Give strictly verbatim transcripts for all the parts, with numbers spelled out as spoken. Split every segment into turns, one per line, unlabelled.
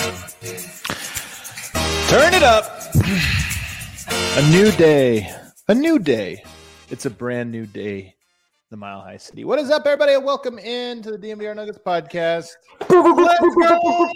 Turn it up. A new day. A new day. It's a brand new day. The Mile High City. What is up, everybody? And welcome in to the D N V R Nuggets podcast. Let's go!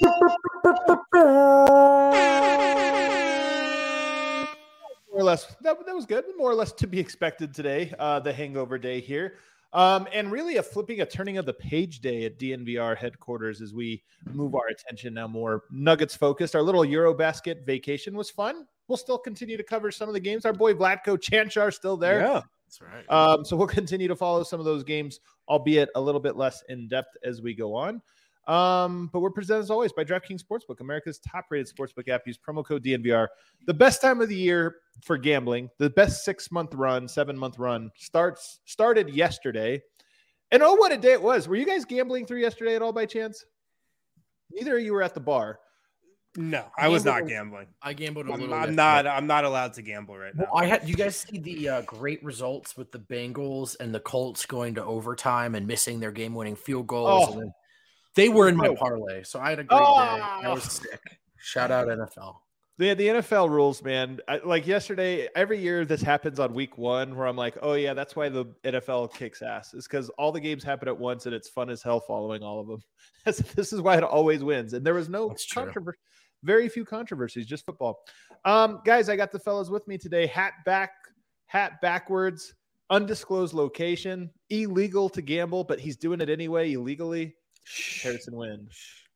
More or less, that, that was good. More or less to be expected today. Uh, the hangover day here. Um, and really a flipping, a turning of the page day at D N V R headquarters as we move our attention now more Nuggets focused. Our little Eurobasket vacation was fun. We'll still continue to cover some of the games. Our boy Vlatko Cancar still there.
Yeah, that's right.
Um, so we'll continue to follow some of those games, albeit a little bit less in depth as we go on. Um, but we're presented as always by DraftKings Sportsbook, America's top-rated sportsbook app. Use promo code D N V R. The best time of the year for gambling, the best six-month run, seven-month run starts started yesterday. And oh, what a day it was! Were you guys gambling through yesterday at all by chance? Neither of you were at the bar.
No, I, I was not gambling.
I gambled a
I'm,
little.
I'm
bit.
not. I'm not allowed to gamble right now.
Well, I had. You guys see the uh, great results with the Bengals and the Colts going to overtime and missing their game-winning field goals.
Oh.
And then they were in my parlay, so I had a great
Oh.
day. I was sick. Shout out N F L.
The, the N F L rules, man. I, like yesterday, every year this happens on week one where I'm like, oh, yeah, that's why the N F L kicks ass. It's because all the games happen at once and it's fun as hell following all of them. This is why it always wins. And there was no controversy, very few controversies, just football. Um, guys, I got the fellas with me today. Hat back, hat backwards, undisclosed location, illegal to gamble, but he's doing it anyway, illegally. Harrison Wind.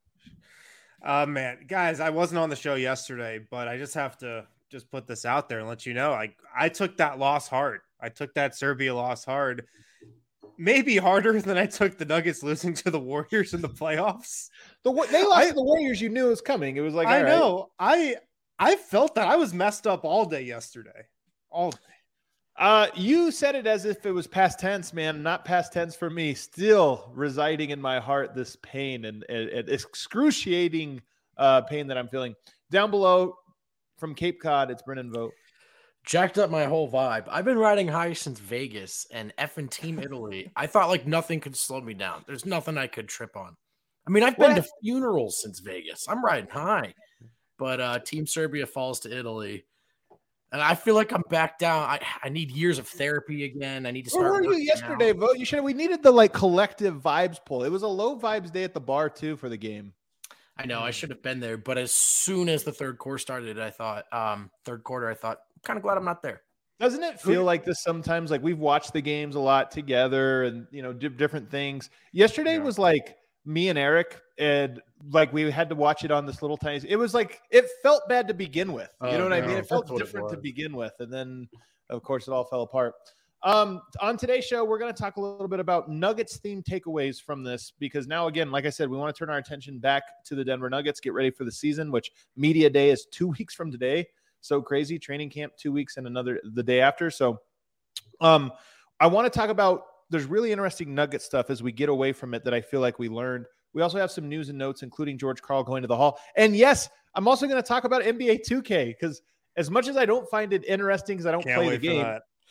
Uh, man, guys, I wasn't on the show yesterday, but I just have to just put this out there and let you know, I, I took that loss hard. I took that Serbia loss hard. Maybe harder than I took the Nuggets losing to the Warriors in the playoffs.
The They lost I, to the Warriors. You knew it was coming. It was like,
I
all
know.
Right.
I I felt that I was messed up all day yesterday. All day.
Uh, you said it as if it was past tense, man. Not past tense for me. Still residing in my heart, this pain and, and, and excruciating uh, pain that I'm feeling. Down below from Cape Cod, it's Brennan Vogt.
Jacked up my whole vibe. I've been riding high since Vegas and effing Team Italy. I thought like nothing could slow me down. There's nothing I could trip on. I mean, I've been what? to funerals since Vegas. I'm riding high. But uh, Team Serbia falls to Italy. And I feel like I'm back down. I, I need years of therapy again. I need to start.
Where were you yesterday,
out.
Vogt? You should. We needed the like collective vibes pull. It was a low vibes day at the bar too for the game.
I know I should have been there, but as soon as the third quarter started, I thought, um, third quarter, I thought, I'm kind of glad I'm not there.
Doesn't it feel like this sometimes? Like we've watched the games a lot together, and you know, do different things. Yesterday yeah. was like me and Eric, and like we had to watch it on this little tiny. It was like it felt bad to begin with. You oh, know what no, I mean? It felt different it to begin with, and then of course it all fell apart. Um, on today's show, we're going to talk a little bit about Nuggets themed takeaways from this, because now, again, like I said, we want to turn our attention back to the Denver Nuggets, get ready for the season, which media day is two weeks from today. So crazy. Training camp, two weeks and another the day after. So um, I want to talk about, there's really interesting Nugget stuff as we get away from it that I feel like we learned. We also have some news and notes, including George Karl going to the Hall. And yes, I'm also going to talk about N B A two K, because as much as I don't find it interesting because I don't Can't play the game,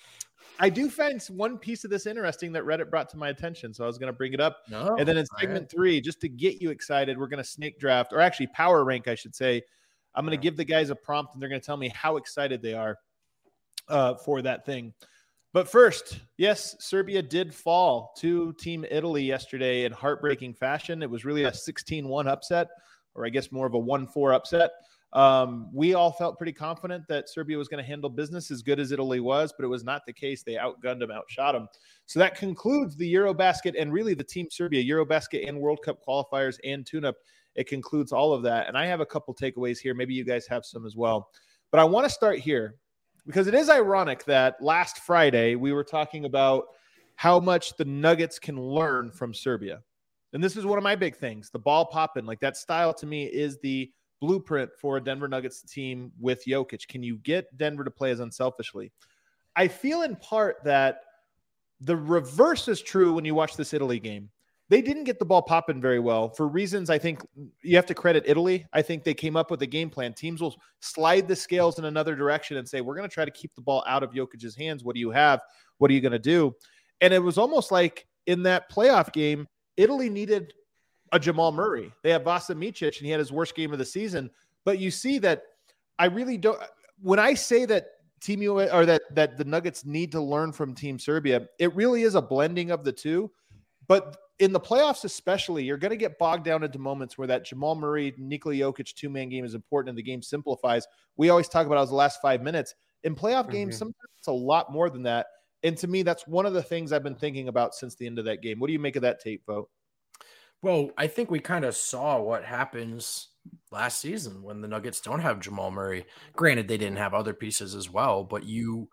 I do find one piece of this interesting that Reddit brought to my attention. So I was going to bring it up. No, and then in segment right. three, just to get you excited, we're going to snake draft, or actually power rank, I should say. I'm going to give the guys a prompt, and they're going to tell me how excited they are uh, for that thing. But first, yes, Serbia did fall to Team Italy yesterday in heartbreaking fashion. It was really a sixteen one upset, or I guess more of a one four upset. Um, we all felt pretty confident that Serbia was going to handle business as good as Italy was, but it was not the case. They outgunned them, outshot them. So that concludes the Eurobasket and really the Team Serbia Eurobasket and World Cup qualifiers and tune-up. It concludes all of that. And I have a couple takeaways here. Maybe you guys have some as well. But I want to start here because it is ironic that last Friday we were talking about how much the Nuggets can learn from Serbia. And this is one of my big things, the ball popping. Like that style to me is the blueprint for a Denver Nuggets team with Jokic. Can you get Denver to play as unselfishly? I feel in part that the reverse is true when you watch this Italy game. They didn't get the ball popping very well for reasons I think you have to credit Italy. I think they came up with a game plan. Teams will slide the scales in another direction and say, we're going to try to keep the ball out of Jokic's hands. What do you have? What are you going to do? And it was almost like in that playoff game, Italy needed a Jamal Murray. They have Vasa Micic, and he had his worst game of the season. But you see that I really don't – when I say that Team U S or that that the Nuggets need to learn from Team Serbia, it really is a blending of the two. But in the playoffs especially, you're going to get bogged down into moments where that Jamal Murray, Nikola Jokic two-man game is important and the game simplifies. We always talk about it as the last five minutes. In playoff games, mm-hmm. sometimes it's a lot more than that. And to me, that's one of the things I've been thinking about since the end of that game. What do you make of that tape, Vogt?
Well, I think we kind of saw what happens last season when the Nuggets don't have Jamal Murray. Granted, they didn't have other pieces as well, but you,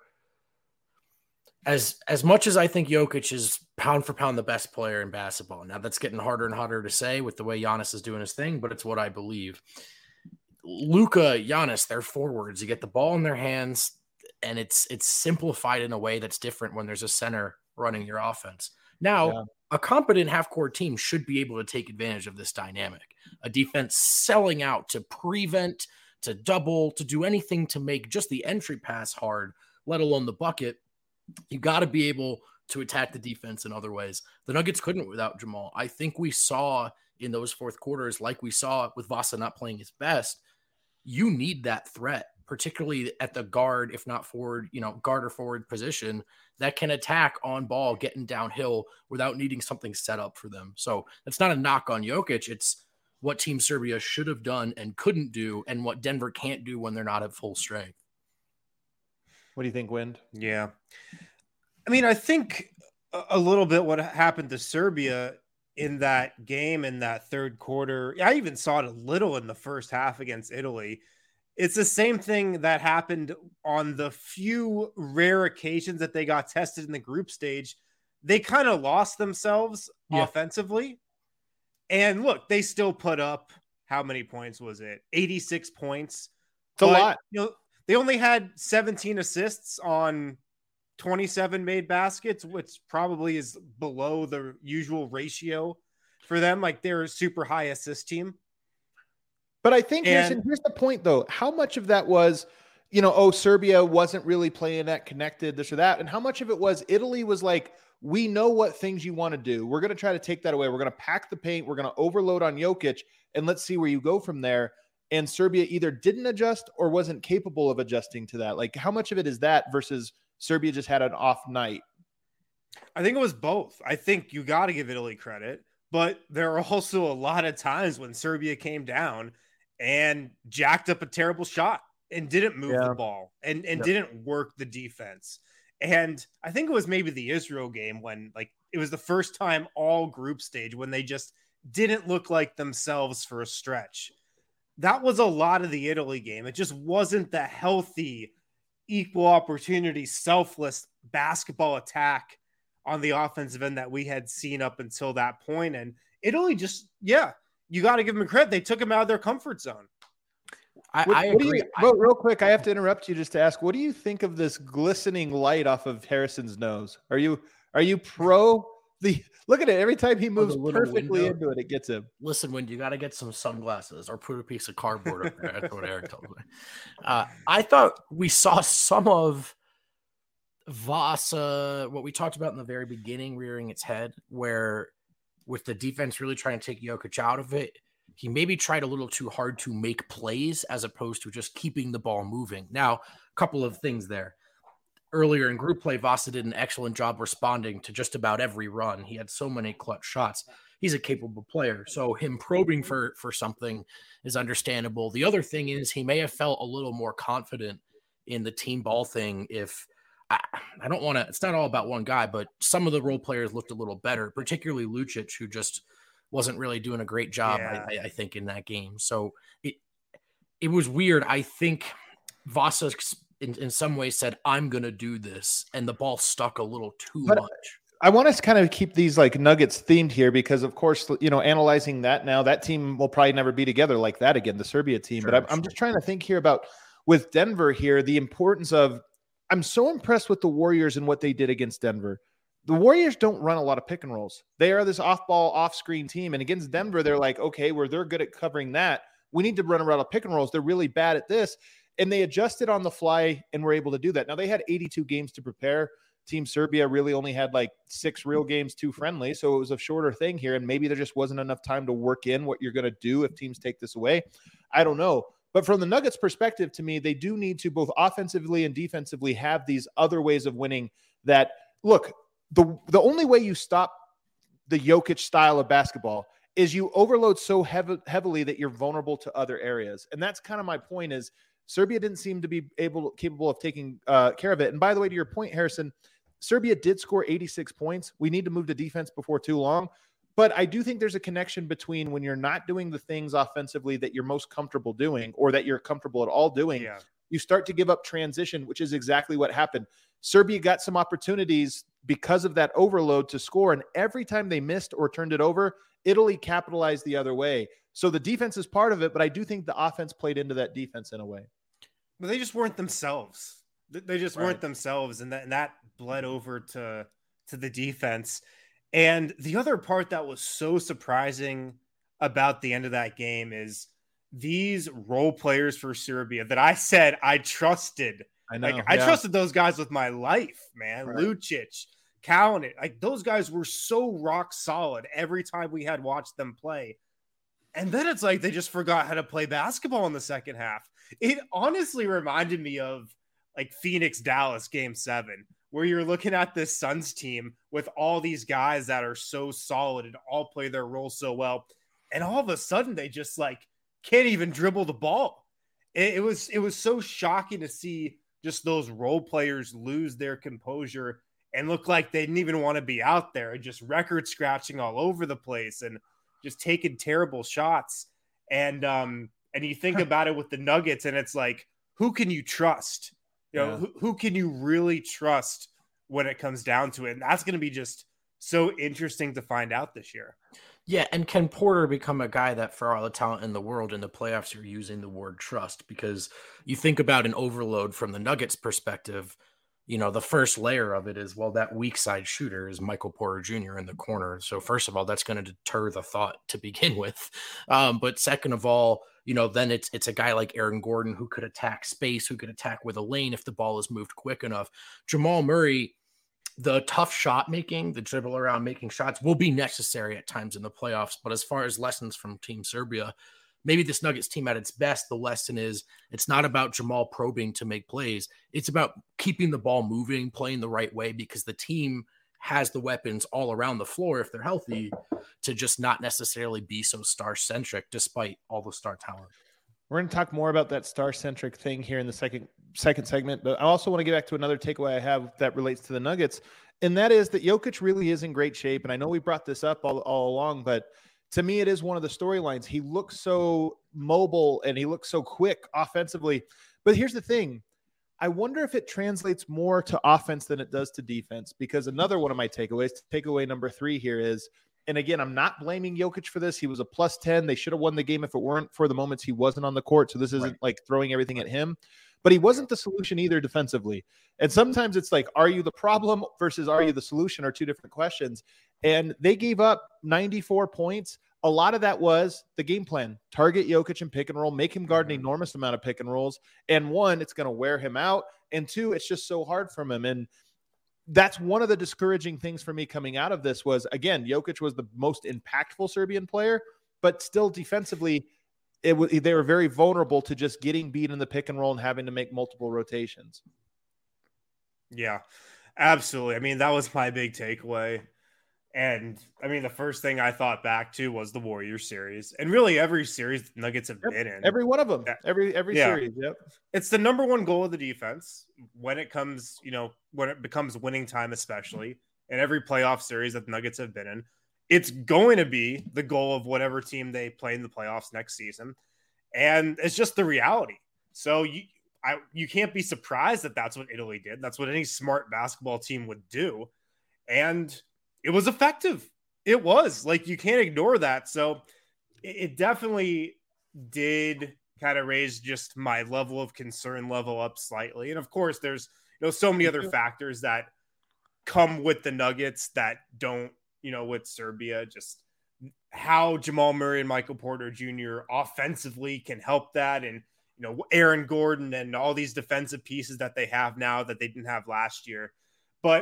as as much as I think Jokic is pound for pound the best player in basketball, now that's getting harder and harder to say with the way Giannis is doing his thing, but it's what I believe. Luka, Giannis, they're forwards. You get the ball in their hands, and it's it's simplified in a way that's different when there's a center running your offense. Now, yeah. a competent half-court team should be able to take advantage of this dynamic. A defense selling out to prevent, to double, to do anything to make just the entry pass hard, let alone the bucket. You got to be able to attack the defense in other ways. The Nuggets couldn't without Jamal. I think we saw in those fourth quarters, like we saw with Vasa not playing his best, you need that threat, particularly at the guard, if not forward, you know, guard or forward position that can attack on ball, getting downhill without needing something set up for them. So that's not a knock on Jokic. It's what Team Serbia should have done and couldn't do, and what Denver can't do when they're not at full strength.
What do you think, Wind?
Yeah. I mean, I think a little bit what happened to Serbia in that game in that third quarter. I even saw it a little in the first half against Italy. It's the same thing that happened on the few rare occasions that they got tested in the group stage. They kind of lost themselves yeah. offensively. And look, they still put up, how many points was it? eighty-six points.
It's but, a lot.
You know, they only had seventeen assists on twenty-seven made baskets, which probably is below the usual ratio for them. Like, they're a super high assist team.
But I think here's, and, here's the point, though. How much of that was, you know, oh, Serbia wasn't really playing that connected, this or that. And how much of it was Italy was like, we know what things you want to do. We're going to try to take that away. We're going to pack the paint. We're going to overload on Jokic, and let's see where you go from there. And Serbia either didn't adjust or wasn't capable of adjusting to that. Like, how much of it is that versus Serbia just had an off night?
I think it was both. I think you got to give Italy credit, but there are also a lot of times when Serbia came down and jacked up a terrible shot and didn't move yeah. the ball and, and yep. didn't work the defense. And I think it was maybe the Israel game when, like, it was the first time all group stage when they just didn't look like themselves for a stretch. That was a lot of the Italy game. It just wasn't the healthy, equal opportunity, selfless basketball attack on the offensive end that we had seen up until that point. And Italy just, yeah, you got to give them credit. They took them out of their comfort zone.
I,
what,
I
what
agree.
You, real, real quick, I have to interrupt you just to ask, what do you think of this glistening light off of Harrison's nose? Are you are you pro the look at it? Every time he moves oh, perfectly window. into it, it gets him.
Listen, when you got to get some sunglasses or put a piece of cardboard up there. That's what Eric told me. Uh, I thought we saw some of Vasa, what we talked about in the very beginning, rearing its head, where with the defense really trying to take Jokic out of it, he maybe tried a little too hard to make plays as opposed to just keeping the ball moving. Now, a couple of things there. Earlier in group play, Vasa did an excellent job responding to just about every run. He had so many clutch shots. He's a capable player. So him probing for, for something is understandable. The other thing is he may have felt a little more confident in the team ball thing if I, I don't want to – it's not all about one guy, but some of the role players looked a little better, particularly Lucic, who just – wasn't really doing a great job, yeah. I, I think, in that game. So it it was weird. I think Vasa, in, in some ways, said, I'm going to do this, and the ball stuck a little too but much.
I want us to kind of keep these, like, Nuggets themed here because, of course, you know, analyzing that now, that team will probably never be together like that again, the Serbia team. Sure, but I'm, sure. I'm just trying to think here about, with Denver here, the importance of – I'm so impressed with the Warriors and what they did against Denver. The Warriors don't run a lot of pick and rolls. They are this off-ball, off-screen team. And against Denver, they're like, okay, where they're good at covering that, we need to run around a pick and rolls. They're really bad at this. And they adjusted on the fly and were able to do that. Now, they had eighty-two games to prepare. Team Serbia really only had like six real games, two friendly. So it was a shorter thing here. And maybe there just wasn't enough time to work in what you're going to do if teams take this away. I don't know. But from the Nuggets perspective, to me, they do need to both offensively and defensively have these other ways of winning that, look, the, the only way you stop the Jokic style of basketball is you overload so heavy, heavily that you're vulnerable to other areas. And that's kind of my point is Serbia didn't seem to be able, capable of taking uh, care of it. And by the way, to your point, Harrison, Serbia did score eighty-six points. We need to move to defense before too long. But I do think there's a connection between when you're not doing the things offensively that you're most comfortable doing or that you're comfortable at all doing, yeah. you start to give up transition, which is exactly what happened. Serbia got some opportunities because of that overload to score, and every time they missed or turned it over, Italy capitalized the other way. So the defense is part of it, but I do think the offense played into that defense in a way.
But they just weren't themselves. They just right. weren't themselves, and that, and that bled over to, to the defense. And the other part that was so surprising about the end of that game is these role players for Serbia that I said I trusted.
I know.
Like, I
yeah.
trusted those guys with my life, man. Right. Lucic, Kalinic, like those guys were so rock solid every time we had watched them play. And then it's like they just forgot how to play basketball in the second half. It honestly reminded me of like Phoenix Dallas game seven, where you're looking at this Suns team with all these guys that are so solid and all play their role so well. And all of a sudden they just like can't even dribble the ball. It, it was, it was so shocking to see just those role players lose their composure and look like they didn't even want to be out there, just record scratching all over the place and just taking terrible shots. And, um, and you think about it with the Nuggets and it's like, who can you trust? You know, yeah. who, who can you really trust when it comes down to it? And that's going to be just so interesting to find out this year.
Yeah, and can Porter become a guy that, for all the talent in the world in the playoffs, you're using the word trust? Because you think about an overload from the Nuggets perspective, you know, the first layer of it is, well, that weak side shooter is Michael Porter Junior in the corner. So first of all, that's going to deter the thought to begin with. Um, but second of all, you know, then it's it's a guy like Aaron Gordon who could attack space, who could attack with a lane if the ball is moved quick enough. Jamal Murray, the tough shot making, the dribble around making shots will be necessary at times in the playoffs. But as far as lessons from Team Serbia, maybe this Nuggets team at its best, the lesson is it's not about Jamal probing to make plays. It's about keeping the ball moving, playing the right way, because the team has the weapons all around the floor, if they're healthy, to just not necessarily be so star-centric despite all the star talent.
We're going to talk more about that star-centric thing here in the second second segment, but I also want to get back to another takeaway I have that relates to the Nuggets, and that is that Jokic really is in great shape, and I know we brought this up all, all along, but to me, it is one of the storylines. He looks so mobile, and he looks so quick offensively, but here's the thing. I wonder if it translates more to offense than it does to defense, because another one of my takeaways, takeaway number three here is, and again, I'm not blaming Jokic for this. He was a plus ten. They should have won the game if it weren't for the moments he wasn't on the court. So this isn't right. like throwing everything at him, but he wasn't the solution either defensively. And sometimes it's like, are you the problem versus are you the solution are two different questions. And they gave up ninety-four points. A lot of that was the game plan. Target Jokic and pick and roll, make him guard an enormous amount of pick and rolls. And one, it's going to wear him out. And two, it's just so hard from him. And that's one of the discouraging things for me coming out of this was, again, Jokic was the most impactful Serbian player, but still defensively, it was, they were very vulnerable to just getting beat in the pick and roll and having to make multiple rotations.
Yeah, absolutely. I mean, that was my big takeaway. And I mean, the first thing I thought back to was the Warriors series, and really every series the Nuggets have
yep.
been in.
Every one of them, every every yeah. series. Yep,
it's the number one goal of the defense when it comes, you know, when it becomes winning time, especially in every playoff series that the Nuggets have been in. It's going to be the goal of whatever team they play in the playoffs next season, and it's just the reality. So you, I, you can't be surprised that that's what Italy did. That's what any smart basketball team would do, and it was effective. It was like, you can't ignore that. So it, it definitely did kind of raise just my level of concern level up slightly. And of course, there's, you know, so many other factors that come with the Nuggets that don't, you know, with Serbia, just how Jamal Murray and Michael Porter Junior offensively can help that. And, you know, Aaron Gordon and all these defensive pieces that they have now that they didn't have last year. But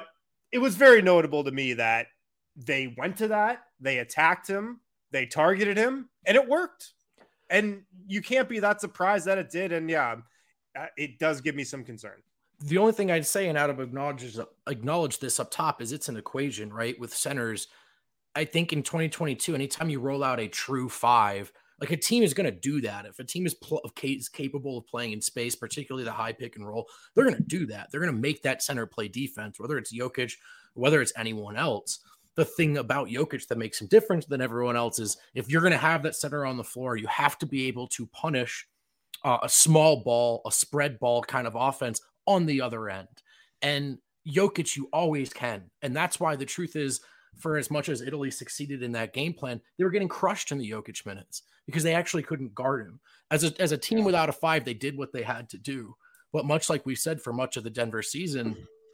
it was very notable to me that they went to that, they attacked him, they targeted him, and it worked. And you can't be that surprised that it did. And yeah, it does give me some concern.
The only thing I'd say, and out of acknowledge, acknowledge this up top, is it's an equation, right? With centers, I think in twenty twenty-two, anytime you roll out a true five, like a team is going to do that. If a team is, pl- is capable of playing in space, particularly the high pick and roll, they're going to do that. They're going to make that center play defense, whether it's Jokic, whether it's anyone else. The thing about Jokic that makes him different than everyone else is if you're going to have that center on the floor, you have to be able to punish uh, a small ball, a spread ball kind of offense on the other end. And Jokic, you always can. And that's why the truth is, for as much as Italy succeeded in that game plan, they were getting crushed in the Jokic minutes because they actually couldn't guard him. As a, as a team without a five, they did what they had to do. But much like we said for much of the Denver season,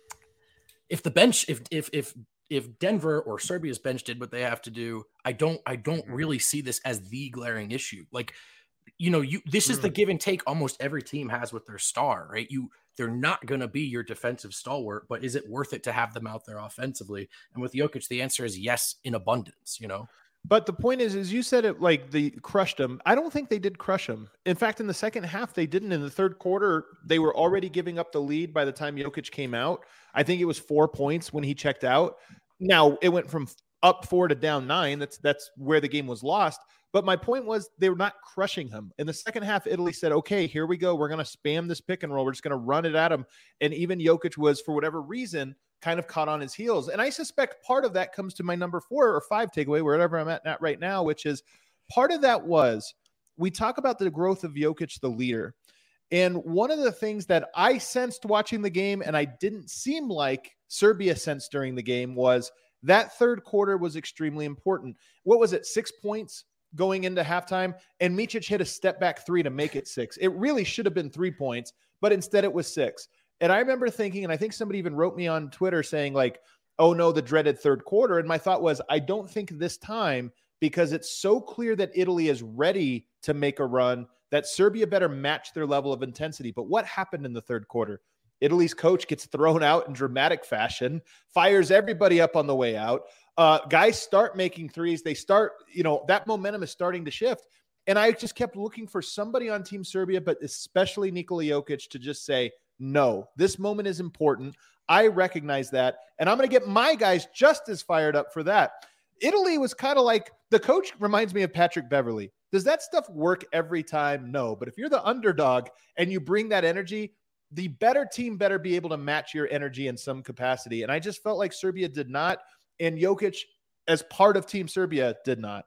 if the bench, if if if if Denver or Serbia's bench did what they have to do, I don't I don't really see this as the glaring issue. Like, you know, you this is the give and take almost every team has with their star, right? You they're not going to be your defensive stalwart, but is it worth it to have them out there offensively? And with Jokic, the answer is yes, in abundance, you know?
But the point is, is you said it like they crushed them. I don't think they did crush them. In fact, in the second half, they didn't. In the third quarter, they were already giving up the lead by the time Jokic came out. I think it was four points when he checked out. Now, it went from up four to down nine. That's that's where the game was lost. But my point was they were not crushing him. In the second half, Italy said, okay, here we go. We're going to spam this pick and roll. We're just going to run it at him. And even Jokic was, for whatever reason, kind of caught on his heels. And I suspect part of that comes to my number four or five takeaway, wherever I'm at, at right now, which is part of that was we talk about the growth of Jokic, the leader. And one of the things that I sensed watching the game, and I didn't seem like Serbia sensed during the game, was that third quarter was extremely important. What was it? Six points going into halftime, and Micic hit a step back three to make it six. It really should have been three points, but instead it was six. And I remember thinking, and I think somebody even wrote me on Twitter saying like, oh no, the dreaded third quarter. And my thought was, I don't think this time, because it's so clear that Italy is ready to make a run, that Serbia better match their level of intensity. But what happened in the third quarter? Italy's coach gets thrown out in dramatic fashion, fires everybody up on the way out. Uh, guys start making threes. They start, you know, that momentum is starting to shift. And I just kept looking for somebody on Team Serbia, but especially Nikola Jokic, to just say, no, this moment is important. I recognize that. And I'm going to get my guys just as fired up for that. Italy was kind of like, the coach reminds me of Patrick Beverley. Does that stuff work every time? No. But if you're the underdog and you bring that energy, the better team better be able to match your energy in some capacity. And I just felt like Serbia did not. And Jokic, as part of Team Serbia, did not.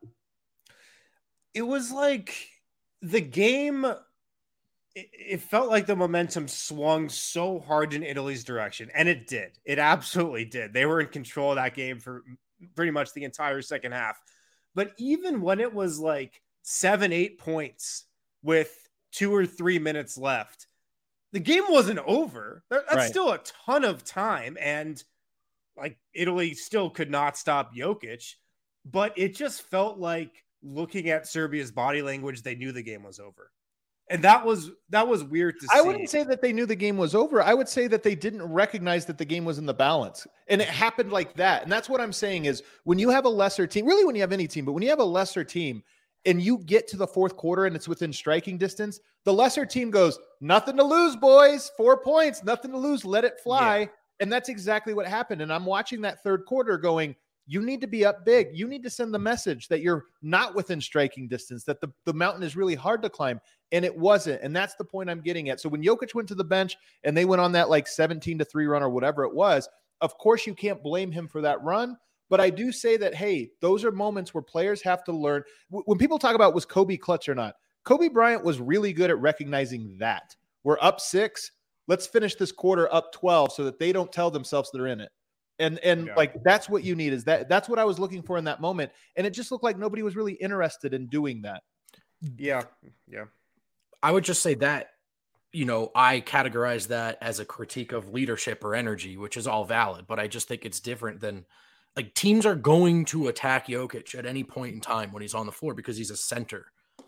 It was like the game, it, it felt like the momentum swung so hard in Italy's direction. And it did. It absolutely did. They were in control of that game for pretty much the entire second half. But even when it was like seven, eight points with two or three minutes left, the game wasn't over. That's right. Still a ton of time. And like Italy still could not stop Jokic, but it just felt like looking at Serbia's body language, they knew the game was over. And that was, that was weird to see.
I wouldn't say that they knew the game was over. I would say that they didn't recognize that the game was in the balance, and it happened like that. And that's what I'm saying is when you have a lesser team, really when you have any team, but when you have a lesser team and you get to the fourth quarter and it's within striking distance, the lesser team goes, nothing to lose, boys, four points, nothing to lose. Let it fly. Yeah. And that's exactly what happened. And I'm watching that third quarter going, you need to be up big. You need to send the message that you're not within striking distance, that the, the mountain is really hard to climb. And it wasn't. And that's the point I'm getting at. So when Jokic went to the bench and they went on that like seventeen to three run or whatever it was, of course you can't blame him for that run. But I do say that, hey, those are moments where players have to learn. When people talk about was Kobe clutch or not, Kobe Bryant was really good at recognizing that. We're up six. Let's finish this quarter up twelve so that they don't tell themselves they're in it. And and yeah. like that's what you need is that that's what I was looking for in that moment. And it just looked like nobody was really interested in doing that.
Yeah. Yeah.
I would just say that, you know, I categorize that as a critique of leadership or energy, which is all valid, but I just think it's different than like teams are going to attack Jokic at any point in time when he's on the floor because he's a center.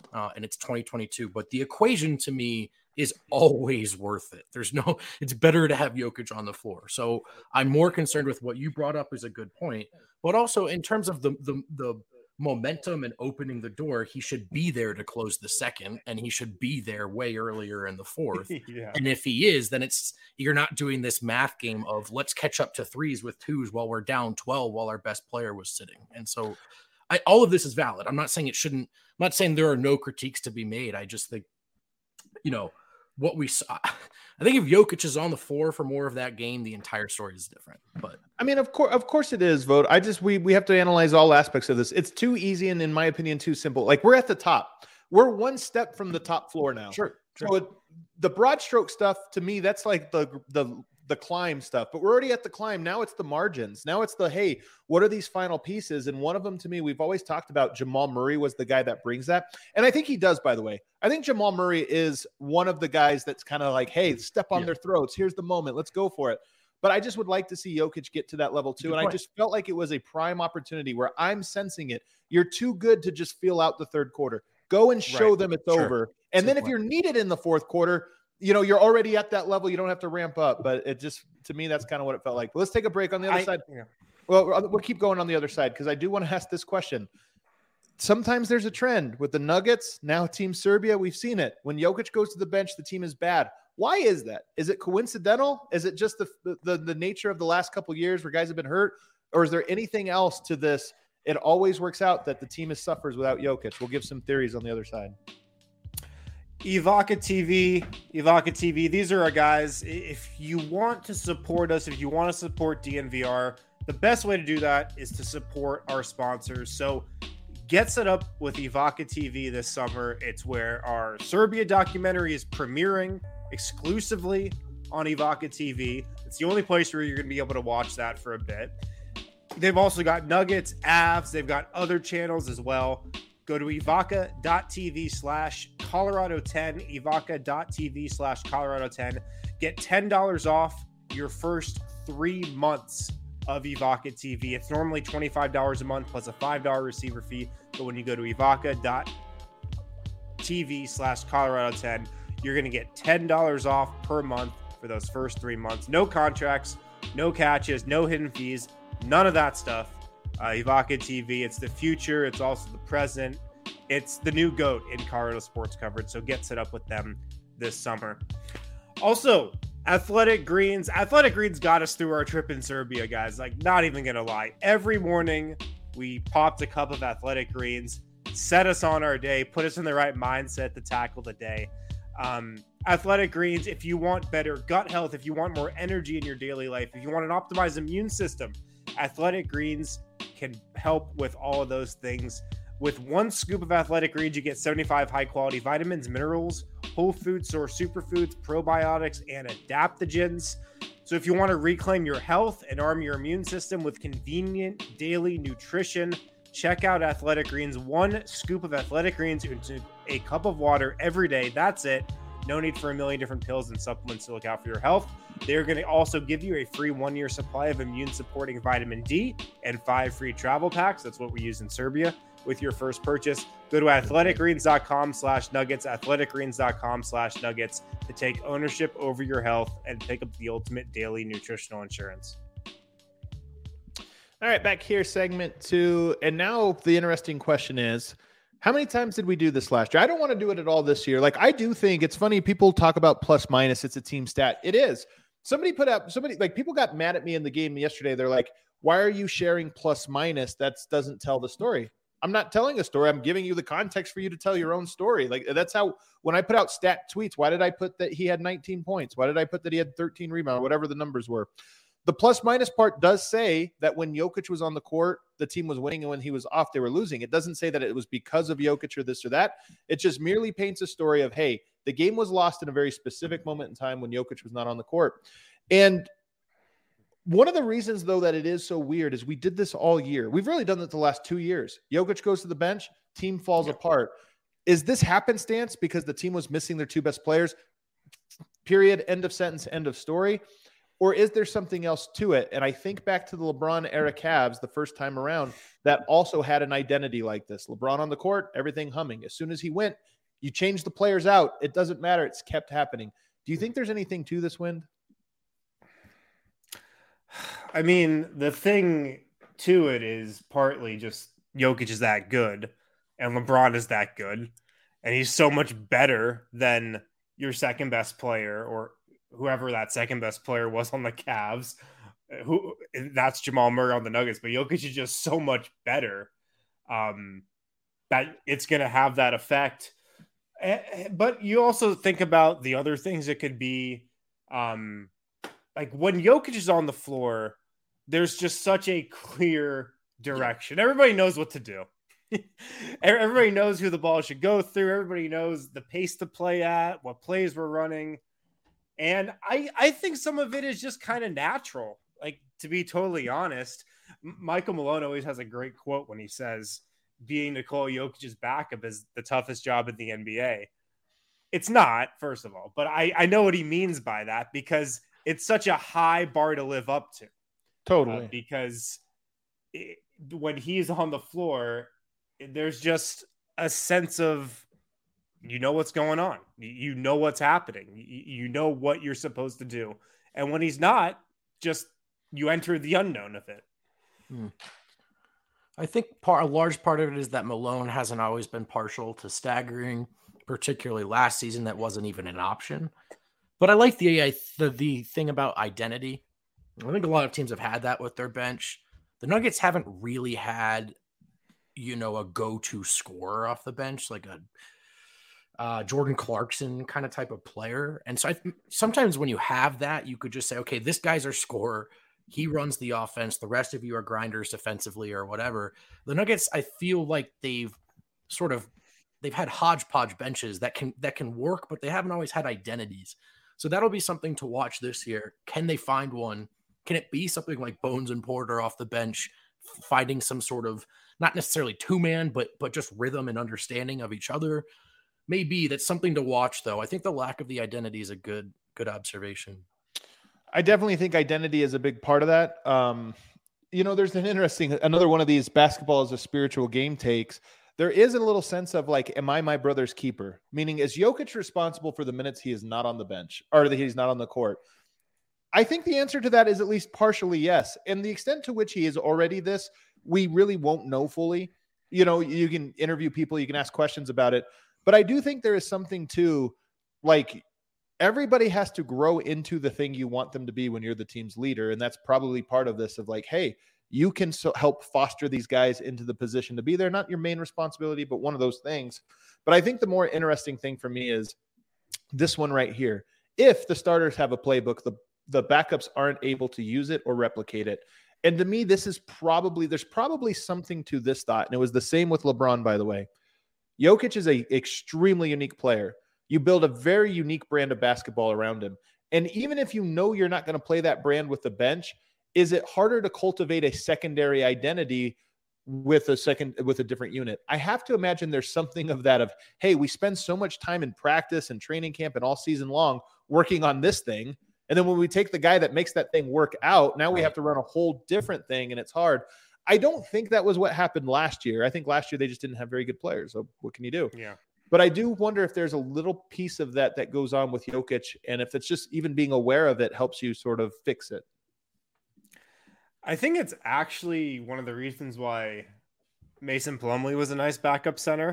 uh, and it's twenty twenty-two. But the equation to me is always worth it. There's no, it's better to have Jokic on the floor. So I'm more concerned with what you brought up is a good point, but also in terms of the the the momentum and opening the door, he should be there to close the second, and he should be there way earlier in the fourth. Yeah. And if he is, then it's, you're not doing this math game of let's catch up to threes with twos while we're down twelve while our best player was sitting. And so I, all of this is valid. I'm not saying it shouldn't, I'm not saying there are no critiques to be made. I just think, you know, what we saw, I think if Jokic is on the floor for more of that game, the entire story is different. But
I mean, of course, of course it is, Vogt. I just we we have to analyze all aspects of this. It's too easy and, in my opinion, too simple. Like, we're at the top. We're one step from the top floor now.
Sure. sure.
So it, the broad stroke stuff, to me, that's like the the the climb stuff. But we're already at the climb. Now it's the margins. Now it's the, hey, what are these final pieces? And one of them, to me, we've always talked about, Jamal Murray was the guy that brings that. And I think he does, by the way. I think Jamal Murray is one of the guys that's kind of like, hey, step on yeah. their throats. Here's the moment. Let's go for it. But I just would like to see Jokic get to that level too. Good and point. I just felt like it was a prime opportunity where I'm sensing it. You're too good to just feel out the third quarter. Go and show right. them it's sure. over. And That's then if point. You're needed in the fourth quarter, you know, you're already at that level. You don't have to ramp up. But it just, to me, that's kind of what it felt like. But let's take a break on the other I, side. Yeah. Well, we'll keep going on the other side because I do want to ask this question. Sometimes there's a trend with the Nuggets. Now Team Serbia, we've seen it. When Jokic goes to the bench, the team is bad. Why is that? Is it coincidental? Is it just the the, the nature of the last couple of years where guys have been hurt? Or is there anything else to this? It always works out that the team is suffers without Jokic. We'll give some theories on the other side.
Evoca T V, Evoca T V. These are our guys. If you want to support us, if you want to support D N V R, the best way to do that is to support our sponsors. So get set up with Evoca T V this summer. It's where our Serbia documentary is premiering exclusively on Evoca T V. It's the only place where you're going to be able to watch that for a bit. They've also got Nuggets, Avs. They've got other channels as well. Go to evoca.tv slash Colorado 10, evoca.tv slash Colorado 10. Get ten dollars off your first three months of Evoca T V. It's normally twenty-five dollars a month plus a five dollars receiver fee. But when you go to evoca.tv slash Colorado 10, you're going to get ten dollars off per month for those first three months. No contracts, no catches, no hidden fees, none of that stuff. Uh, Evoca T V, it's the future. It's also the present. It's the new GOAT in Colorado sports coverage. So get set up with them this summer. Also, Athletic Greens. Athletic Greens got us through our trip in Serbia, guys. Like, not even going to lie. Every morning, we popped a cup of Athletic Greens, set us on our day, put us in the right mindset to tackle the day. Um, Athletic Greens, if you want better gut health, if you want more energy in your daily life, if you want an optimized immune system, Athletic Greens can help with all of those things. With one scoop of Athletic Greens, you get seventy-five high-quality vitamins, minerals, whole food source superfoods, probiotics, and adaptogens. So if you want to reclaim your health and arm your immune system with convenient daily nutrition, check out Athletic Greens. One scoop of Athletic Greens into a cup of water every day. That's it. No need for a million different pills and supplements to look out for your health. They're going to also give you a free one-year supply of immune-supporting vitamin D and five free travel packs. That's what we use in Serbia with your first purchase. Go to athleticgreens.com slash nuggets, athleticgreens.com slash nuggets to take ownership over your health and pick up the ultimate daily nutritional insurance.
All right, back here, segment two. And now the interesting question is, how many times did we do this last year? I don't want to do it at all this year. Like, I do think it's funny. People talk about plus minus. It's a team stat. It is. Somebody put up, somebody like people got mad at me in the game yesterday. They're like, why are you sharing plus minus? That doesn't tell the story. I'm not telling a story. I'm giving you the context for you to tell your own story. Like, that's how, when I put out stat tweets, why did I put that he had nineteen points? Why did I put that he had thirteen rebounds, whatever the numbers were? The plus minus part does say that when Jokic was on the court, the team was winning, and when he was off, they were losing. It doesn't say that it was because of Jokic or this or that. It just merely paints a story of, hey, the game was lost in a very specific moment in time when Jokic was not on the court. And one of the reasons, though, that it is so weird is we did this all year. We've really done that the last two years. Jokic goes to the bench, team falls yeah. apart. Is this happenstance because the team was missing their two best players? Period. End of sentence. End of story. Or is there something else to it? And I think back to the LeBron era Cavs the first time around that also had an identity like this. LeBron on the court, everything humming. As soon as he went, you change the players out. It doesn't matter. It's kept happening. Do you think there's anything to this, Wind?
I mean, the thing to it is partly just Jokic is that good and LeBron is that good. And he's so much better than your second best player or whoever that second best player was on the Cavs. Who that's Jamal Murray on the Nuggets, but Jokic is just so much better um, that it's going to have that effect. But you also think about the other things it could be. Um, like when Jokic is on the floor, there's just such a clear direction. Yeah. Everybody knows what to do. Everybody knows who the ball should go through. Everybody knows the pace to play at, what plays we're running. And I, I think some of it is just kind of natural. Like, to be totally honest, Michael Malone always has a great quote when he says, being Nikola Jokic's backup is the toughest job in the N B A. It's not, first of all, but I, I know what he means by that because it's such a high bar to live up to.
Totally.
Uh, because it, when he's on the floor, there's just a sense of, you know what's going on. You know what's happening. You know what you're supposed to do. And when he's not, just you enter the unknown of it.
Hmm. I think part, a large part of it is that Malone hasn't always been partial to staggering, particularly last season. That wasn't even an option. But I like the, the, the thing about identity. I think a lot of teams have had that with their bench. The Nuggets haven't really had, you know, a go-to scorer off the bench, like a uh, Jordan Clarkson kind of type of player. And so I, sometimes when you have that, you could just say, okay, this guy's our scorer. He runs the offense. The rest of you are grinders defensively or whatever. The Nuggets, I feel like they've sort of, they've had hodgepodge benches that can, that can work, but they haven't always had identities. So that'll be something to watch this year. Can they find one? Can it be something like Bones and Porter off the bench, finding some sort of, not necessarily two-man, but but just rhythm and understanding of each other? Maybe that's something to watch, though. I think the lack of the identity is a good good observation.
I definitely think identity is a big part of that. Um, you know, there's an interesting, another one of these basketball is a spiritual game takes. There is a little sense of like, am I my brother's keeper? Meaning, is Jokic responsible for the minutes he is not on the bench or that he's not on the court? I think the answer to that is at least partially yes. And the extent to which he is already this, we really won't know fully. You know, you can interview people, you can ask questions about it. But I do think there is something to, like, everybody has to grow into the thing you want them to be when you're the team's leader. And that's probably part of this of like, hey, you can so help foster these guys into the position to be there. Not your main responsibility, but one of those things. But I think the more interesting thing for me is this one right here. If the starters have a playbook, the the backups aren't able to use it or replicate it. And to me, this is probably, there's probably something to this thought. And it was the same with LeBron, by the way. Jokic is a extremely unique player. You build a very unique brand of basketball around him. And even if you know you're not going to play that brand with the bench, is it harder to cultivate a secondary identity with a second, with a different unit? I have to imagine there's something of that of, hey, we spend so much time in practice and training camp and all season long working on this thing. And then when we take the guy that makes that thing work out, now we have to run a whole different thing, and it's hard. I don't think that was what happened last year. I think last year they just didn't have very good players. So what can you do?
Yeah.
But I do wonder if there's a little piece of that that goes on with Jokic, and if it's just even being aware of it helps you sort of fix it.
I think it's actually one of the reasons why Mason Plumlee was a nice backup center.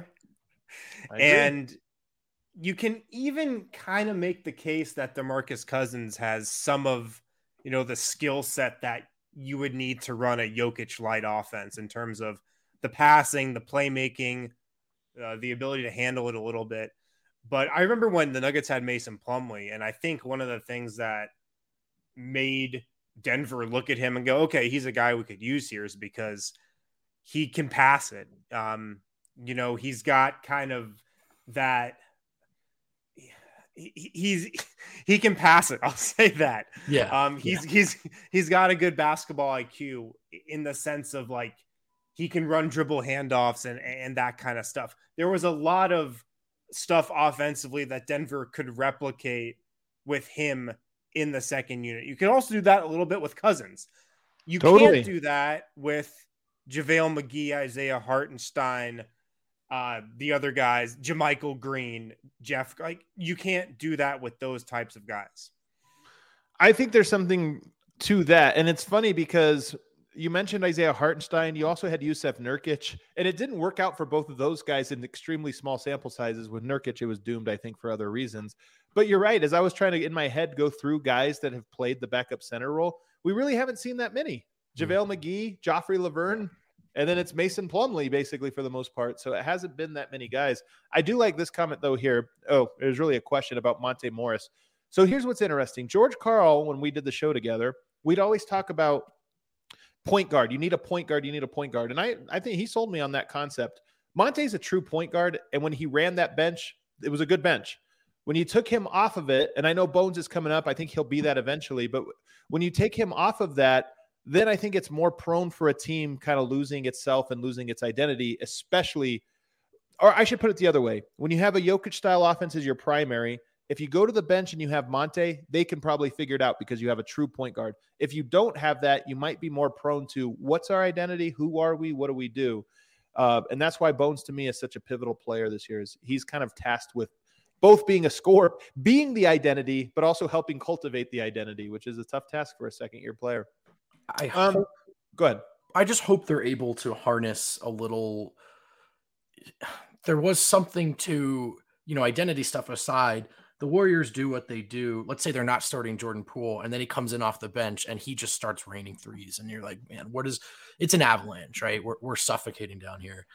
And you can even kind of make the case that DeMarcus Cousins has some of, you know, the skill set that you would need to run a Jokic light offense in terms of the passing, the playmaking, uh, the ability to handle it a little bit. But I remember when the Nuggets had Mason Plumlee, and I think one of the things that made Denver look at him and go, okay, he's a guy we could use here, is because he can pass it. Um, you know, he's got kind of that, He, he's he can pass it. I'll say that.
Yeah.
Um. He's
yeah.
he's he's got a good basketball I Q in the sense of like he can run dribble handoffs and and that kind of stuff. There was a lot of stuff offensively that Denver could replicate with him in the second unit. You can also do that a little bit with Cousins. You
Totally.
can't do that with JaVale McGee, Isaiah Hartenstein, uh, the other guys, JaMychal Green, Jeff. Like, you can't do that with those types of guys.
I think there's something to that. And it's funny because you mentioned Isaiah Hartenstein. You also had Yusuf Nurkic, and it didn't work out for both of those guys in extremely small sample sizes. With Nurkic, it was doomed, I think, for other reasons. But you're right. As I was trying to, in my head, go through guys that have played the backup center role, we really haven't seen that many. JaVale McGee, Joffrey Laverne, and then it's Mason Plumlee, basically, for the most part. So it hasn't been that many guys. I do like this comment, though, here. Oh, there's really a question about Monte Morris. So here's what's interesting. George Karl, when we did the show together, we'd always talk about point guard. You need a point guard. You need a point guard. And I, I think he sold me on that concept. Monte's a true point guard. And when he ran that bench, it was a good bench. When you took him off of it, and I know Bones is coming up, I think he'll be that eventually. But when you take him off of that, then I think it's more prone for a team kind of losing itself and losing its identity, especially, or I should put it the other way. When you have a Jokic-style offense as your primary, if you go to the bench and you have Monte, they can probably figure it out because you have a true point guard. If you don't have that, you might be more prone to what's our identity? Who are we? What do we do? Uh, and that's why Bones, to me, is such a pivotal player this year. Is he's kind of tasked with both being a scorer, being the identity, but also helping cultivate the identity, which is a tough task for a second-year player.
I
Um,
hope,
go ahead.
I just hope they're able to harness a little. There was something to, you know, identity stuff aside. The Warriors do what they do. Let's say they're not starting Jordan Poole, and then he comes in off the bench and he just starts raining threes. And you're like, man, what is it's an avalanche, right? We're, we're suffocating down here.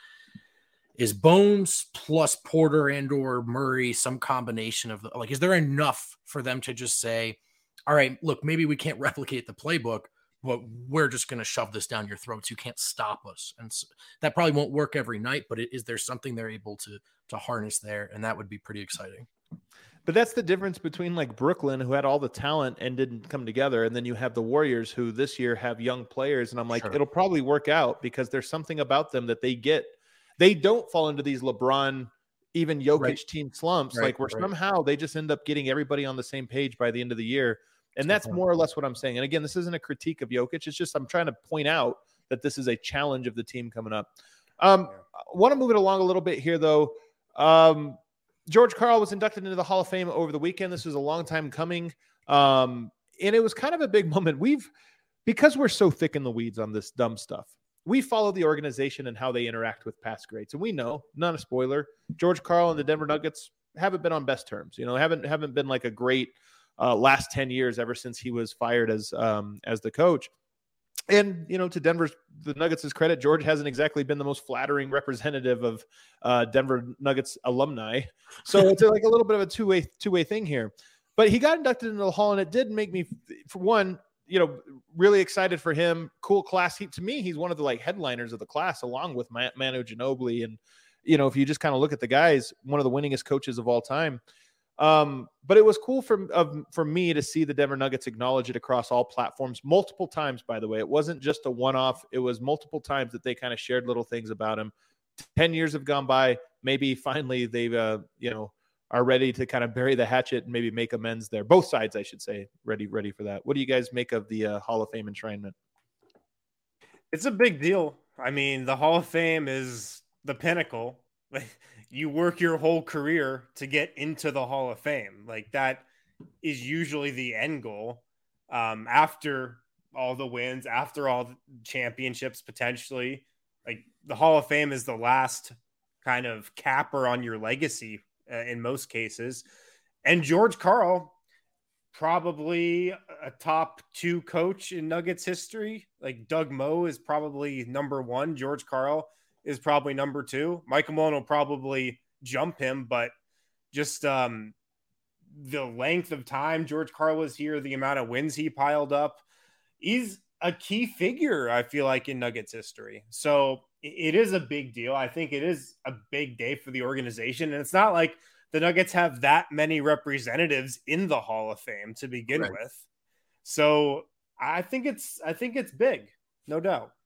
Is Bones plus Porter and or Murray some combination of the, like, is there enough for them to just say, all right, look, maybe we can't replicate the playbook, but we're just going to shove this down your throats. You can't stop us. And so that probably won't work every night, but is there something they're able to, to harness there? And that would be pretty exciting.
But that's the difference between like Brooklyn, who had all the talent and didn't come together. And then you have the Warriors, who this year have young players. And I'm like,
Sure.
It'll probably work out because there's something about them that they get. They don't fall into these LeBron, even Jokic
Right.
team slumps,
Right,
like where
right.
somehow they just end up getting everybody on the same page by the end of the year. And that's
point.
more or less what I'm saying. And again, this isn't a critique of Jokic. It's just I'm trying to point out that this is a challenge of the team coming up. Um, I want to move it along a little bit here, though. Um, George Karl was inducted into the Hall of Fame over the weekend. This was a long time coming. Um, and it was kind of a big moment. We've, because we're so thick in the weeds on this dumb stuff, we follow the organization and how they interact with past greats. And we know, not a spoiler, George Karl and the Denver Nuggets haven't been on best terms. You know, haven't haven't been like a great uh, last ten years ever since he was fired as um, as the coach. And, you know, to Denver's, the Nuggets' credit, George hasn't exactly been the most flattering representative of uh, Denver Nuggets alumni. So it's like a little bit of a two-way two-way thing here. But he got inducted into the Hall, and it did make me, for one, you know, really excited for him. Cool class. He, to me, he's one of the like headliners of the class, along with Manu Ginobili. And, you know, if you just kind of look at the guys, one of the winningest coaches of all time. Um, but it was cool for, of, for me to see the Denver Nuggets acknowledge it across all platforms multiple times, by the way. It wasn't just a one-off. It was multiple times that they kind of shared little things about him. ten years have gone by. Maybe finally they've, uh, you know, are ready to kind of bury the hatchet and maybe make amends there. Both sides, I should say, ready, ready for that. What do you guys make of the uh, Hall of Fame enshrinement?
It's a big deal. I mean, the Hall of Fame is the pinnacle. You work your whole career to get into the Hall of Fame. Like, that is usually the end goal. Um, after all the wins, after all the championships, potentially, like, the Hall of Fame is the last kind of capper on your legacy uh, in most cases. And George Karl, probably a top two coach in Nuggets history. Like, Doug Moe is probably number one. George Karl is probably number two. Michael Malone will probably jump him, but just um, the length of time George Karl was here, the amount of wins he piled up, he's a key figure, I feel like, in Nuggets history. So it is a big deal. I think it is a big day for the organization. And it's not like the Nuggets have that many representatives in the Hall of Fame to begin
Right.
with. So I think it's, I think it's big, no doubt.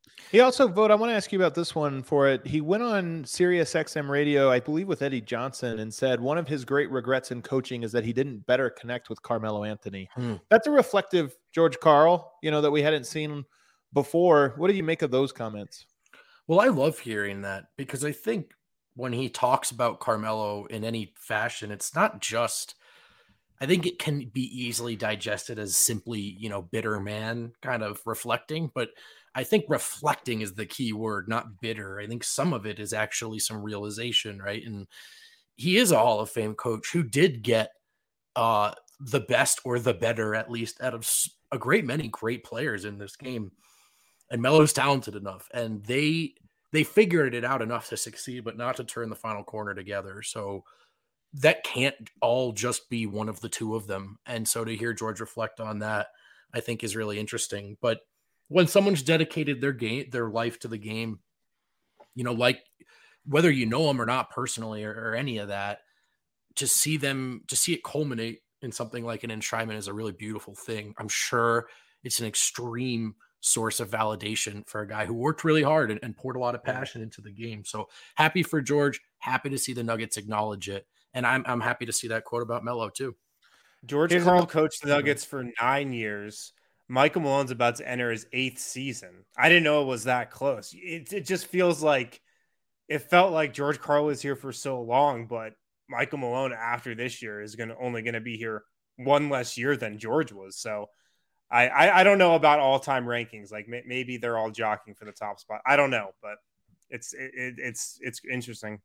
He also vote. I want to ask you about this one for it. He went on Sirius X M radio, I believe, with Eddie Johnson, and said one of his great regrets in coaching is that he didn't better connect with Carmelo Anthony. Hmm. That's a reflective George Karl, you know, that we hadn't seen before. What do you make of those comments?
Well, I love hearing that because I think when he talks about Carmelo in any fashion, it's not just, I think it can be easily digested as simply, you know, bitter man kind of reflecting, but I think reflecting is the key word, not bitter. I think some of it is actually some realization, right? And he is a Hall of Fame coach who did get uh, the best or the better, at least, out of a great many great players in this game. And Melo's talented enough, and they they figured it out enough to succeed, but not to turn the final corner together. So that can't all just be one of the two of them. And so to hear George reflect on that, I think is really interesting. But when someone's dedicated their game, their life to the game, you know, like whether you know them or not personally or, or any of that, to see them, to see it culminate in something like an enshrinement is a really beautiful thing. I'm sure it's an extreme source of validation for a guy who worked really hard and, and poured a lot of passion into the game. So happy for George, happy to see the Nuggets acknowledge it. And I'm I'm happy to see that quote about Melo too.
George Here's Karl coached the Nuggets for nine years. Michael Malone's about to enter his eighth season. I didn't know it was that close. It, it just feels like it felt like George Karl was here for so long, but Michael Malone after this year is going to only going to be here one less year than George was. So I, I, I don't know about all-time rankings. Like may, maybe they're all jockeying for the top spot. I don't know, but it's it, it, it's it's interesting.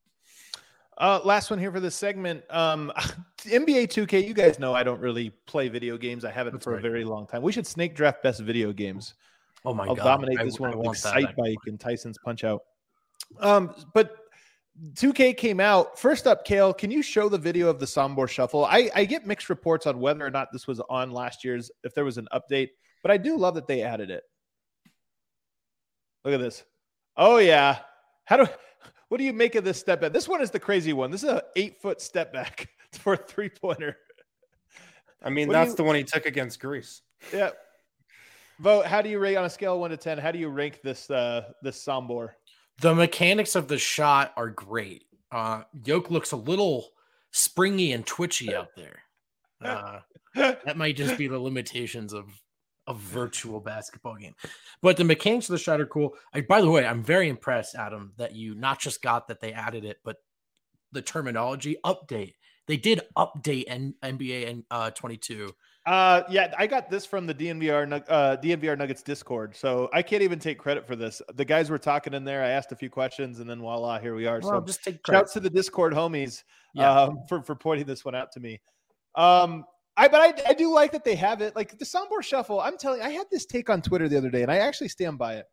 Uh, last one here for this segment. Um, N B A two K, you guys know I don't really play video games. I haven't That's for right. a very long time. We should snake draft best video games.
Oh my
I'll
God.
I'll dominate
I,
this one
I
with
Excite
Bike that. and Tyson's Punch Out. Um, but two K came out. First up, Kale, can you show the video of the Sombor Shuffle? I, I get mixed reports on whether or not this was on last year's, if there was an update, but I do love that they added it. Look at this. Oh, yeah. How do what do you make of this step back? This one is the crazy one. This is an eight-foot step back for a three-pointer.
I mean, what that's you, the one he took against Greece.
Yeah. Vote, how do you rate on a scale of one to ten? How do you rank this uh, this Sombor?
The mechanics of the shot are great. Uh, Yoke looks a little springy and twitchy out there. Uh, that might just be the limitations of a virtual basketball game. But the mechanics of the shot are cool. I, by the way, I'm very impressed, Adam, that you not just got that they added it, but the terminology update. They did update N- N B A and uh, twenty-two.
Uh, yeah, I got this from the D N V R uh, D N V R Nuggets Discord, so I can't even take credit for this. The guys were talking in there. I asked a few questions, and then voila, here we are.
Well,
so
just take credit.
Shouts to the Discord homies yeah. um, for for pointing this one out to me. Um, I but I, I do like that they have it. Like the Sombor Shuffle, I'm telling you, I had this take on Twitter the other day, and I actually stand by it.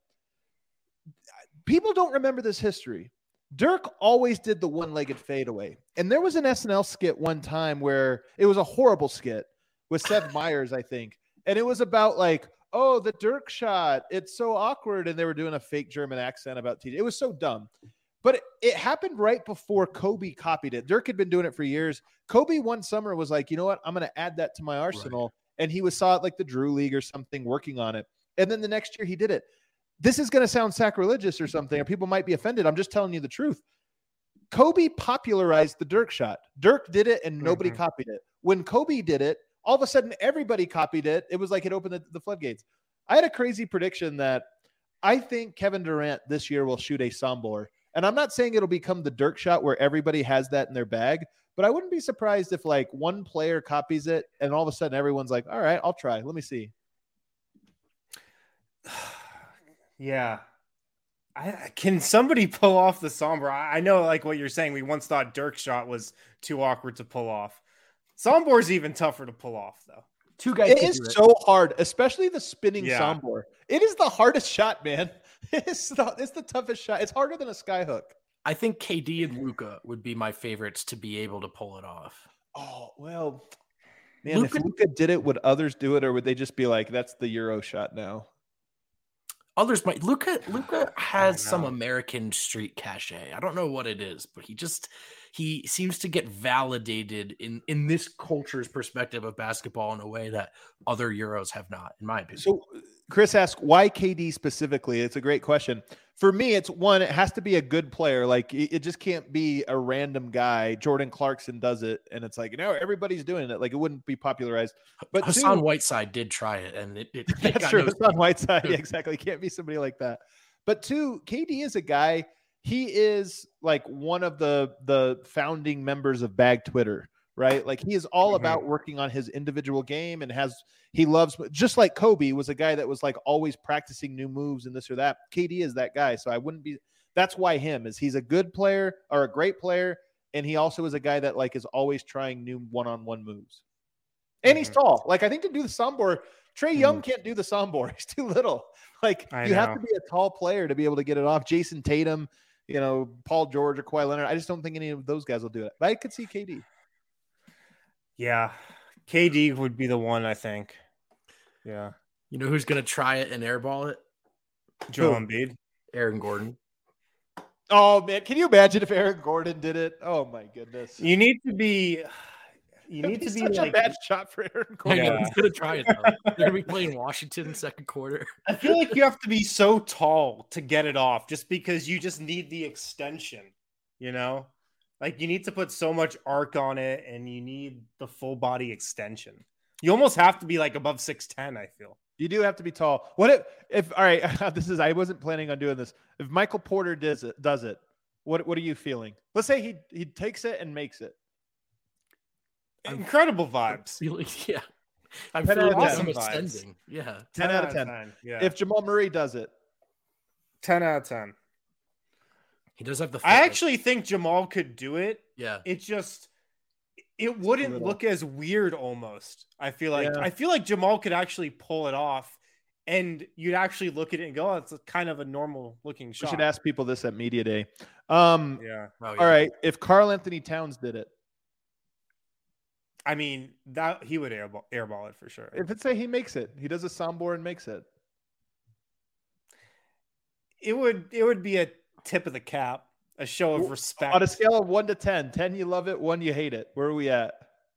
People don't remember this history. Dirk always did the one-legged fadeaway, and there was an S N L skit one time where it was a horrible skit with Seth Meyers, I think. And it was about like, oh, the Dirk shot. It's so awkward. And they were doing a fake German accent about T J. It was so dumb. But it, it happened right before Kobe copied it. Dirk had been doing it for years. Kobe one summer was like, you know what? I'm going to add that to my arsenal. Right. And he was saw it like the Drew League or something working on it. And then the next year he did it. This is going to sound sacrilegious or something, or people might be offended. I'm just telling you the truth. Kobe popularized the Dirk shot. Dirk did it and nobody mm-hmm. copied it. When Kobe did it, all of a sudden, everybody copied it. It was like it opened the, the floodgates. I had a crazy prediction that I think Kevin Durant this year will shoot a Sombor. And I'm not saying it'll become the Dirk shot where everybody has that in their bag, but I wouldn't be surprised if like one player copies it and all of a sudden everyone's like, all right, I'll try. Let me see.
Yeah. I, can somebody pull off the Sombor? I, I know like what you're saying. We once thought Dirk shot was too awkward to pull off. Sombor's even tougher to pull off, though.
Two guys. It is it. so hard, especially the spinning yeah. Sombor. It is the hardest shot, man. It's the, it's the toughest shot. It's harder than a skyhook.
I think K D and Luka would be my favorites to be able to pull it off.
Oh, well, man, Luka, if Luka did it, would others do it, or would they just be like, that's the Euro shot now?
Others might. Luka Luka has some American street cachet. I don't know what it is, but he just he seems to get validated in in this culture's perspective of basketball in a way that other Euros have not, in my opinion.
So Chris asks, why K D specifically? It's a great question. For me, it's one, it has to be a good player. Like, it, it just can't be a random guy. Jordan Clarkson does it, and it's like, you know, everybody's doing it. Like, it wouldn't be popularized. But
Hassan
two,
Whiteside did try it, and it, it, it
that's
got
true.
no
Hassan Whiteside, yeah, exactly. It can't be somebody like that. But two, K D is a guy, he is like one of the the founding members of Bag Twitter, right? Like, he is all mm-hmm. about working on his individual game and has he loves, just like Kobe was a guy that was like always practicing new moves and this or that. K D is that guy. So I wouldn't be, that's why him is he's a good player or a great player. And he also is a guy that like is always trying new one-on-one moves. And mm-hmm. he's tall. Like, I think to do the Sombor, Trae mm-hmm. Young can't do the Sombor. He's too little. Like, I you know. have to be a tall player to be able to get it off. Jason Tatum, you know, Paul George or Kawhi Leonard. I just don't think any of those guys will do it. But I could see K D.
Yeah. K D would be the one, I think. Yeah.
You know who's going to try it and airball it?
Joel Embiid.
Aaron Gordon.
Oh, man. Can you imagine if Aaron Gordon did it? Oh, my goodness.
You need to be you need
It'd
to
be
be
such
like
a bad shot for Aaron Gordon.
Yeah, he's going to try it, though. They're going to be playing Washington in second quarter.
I feel like you have to be so tall to get it off just because you just need the extension, you know? Like, you need to put so much arc on it, and you need the full body extension. You almost have to be like above six ten, I feel.
You do have to be tall. What if, if all right, this is, I wasn't planning on doing this. If Michael Porter does it, does it, what, what are you feeling? Let's say he, he takes it and makes it.
Incredible vibes.
Feeling, yeah. I'm feeling awesome ascending. Yeah.
ten out of ten. Yeah. If Jamal Murray does it.
ten out of ten.
He does have the
fitness. I actually think Jamal could do it.
Yeah.
It just it wouldn't look as weird almost. I feel like yeah. I feel like Jamal could actually pull it off, and you'd actually look at it and go, oh, it's a kind of a normal looking shot.
We should ask people this at Media Day. Um
yeah.
Oh, yeah.
All right. If Karl Anthony Towns did it.
I mean, that he would airball, airball it for sure.
If it's say he makes it, he does a Sombor and makes it.
It would it would be a tip of the cap, a show of respect.
On a scale of one to ten, ten you love it, one you hate it. Where are we at?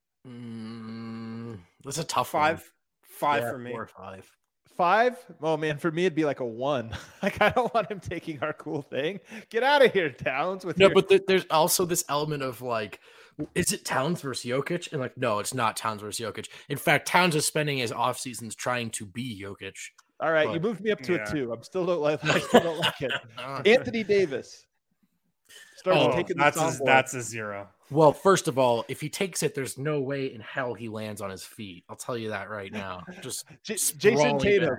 Mm, that's a tough
five.
One.
Five
yeah,
for me.
Four or five.
Five? Oh man, for me it'd be like a one. Like, I don't want him taking our cool thing. Get out of here, Towns. With
no,
your...
but th- there's also this element of like, is it Towns versus Jokic? And like, no, it's not Towns versus Jokic. In fact, Towns is spending his off seasons trying to be Jokic.
All right, but, you moved me up to yeah. a two. I'm still don't like. I still don't like it. Anthony Davis.
Starts oh, taking that's a, that's a zero.
Well, first of all, if he takes it, there's no way in hell he lands on his feet. I'll tell you that right now. Just
J- Jason Tatum.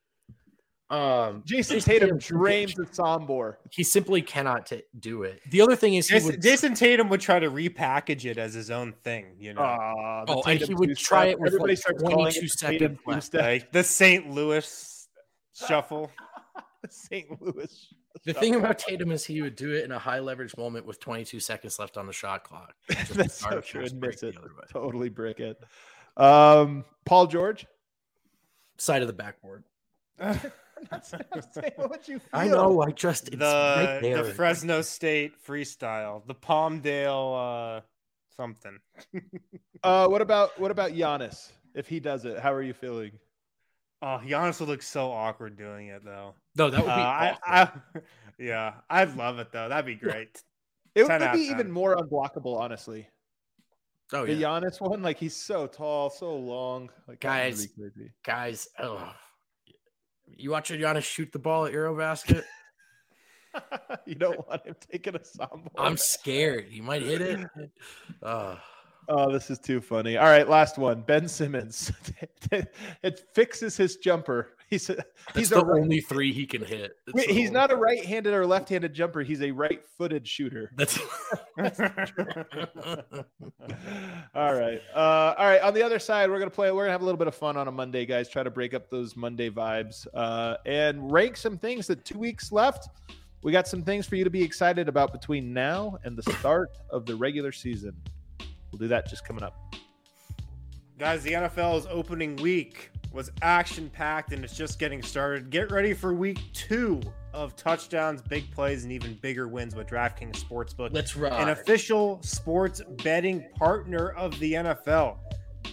Um,
Jason, Jason Tatum, Tatum drains the Sombor.
He simply cannot t- do it. The other thing is, he
Jason,
would,
Jason Tatum would try to repackage it as his own thing. You know,
uh,
oh, and he would try it with everybody like starts twenty-two seconds left.
Like the Saint Louis shuffle.
The Saint Louis.
The thing about Tatum is he would do it in a high leverage moment with twenty-two seconds left on the shot clock.
That's so true. Miss it. Totally brick it. Um, Paul George,
side of the backboard.
I'm not saying what you feel.
I know. I just it's
the
right there.
the Fresno State freestyle, the Palmdale uh, something.
uh, what about what about Giannis? If he does it, how are you feeling?
Oh, Giannis would look so awkward doing it, though.
No, that would be. Uh,
I, I, yeah, I'd love it though. That'd be great.
It would be even more unblockable, honestly.
Oh
the
yeah,
Giannis one, like he's so tall, so long. Like
guys, really guys, oh, you watch Giannis shoot the ball at Eurobasket?
You don't want him taking a Sombor.
I'm scared. He might hit it. Uh.
Oh, this is too funny. All right, last one. Ben Simmons. It fixes his jumper. He's a,
That's
he's
the
right,
only three he can hit.
Wait, he's not a right-handed or left-handed jumper. He's a right-footed shooter.
That's,
That's all right. Uh, all right. On the other side, we're gonna play. We're gonna have a little bit of fun on a Monday, guys. Try to break up those Monday vibes uh, and rank some things. That two weeks left. We got some things for you to be excited about between now and the start of the regular season. We'll do that just coming up.
Guys, the N F L's opening week was action-packed, and it's just getting started. Get ready for week two of touchdowns, big plays, and even bigger wins with DraftKings Sportsbook.
Let's ride.
An official sports betting partner of the N F L.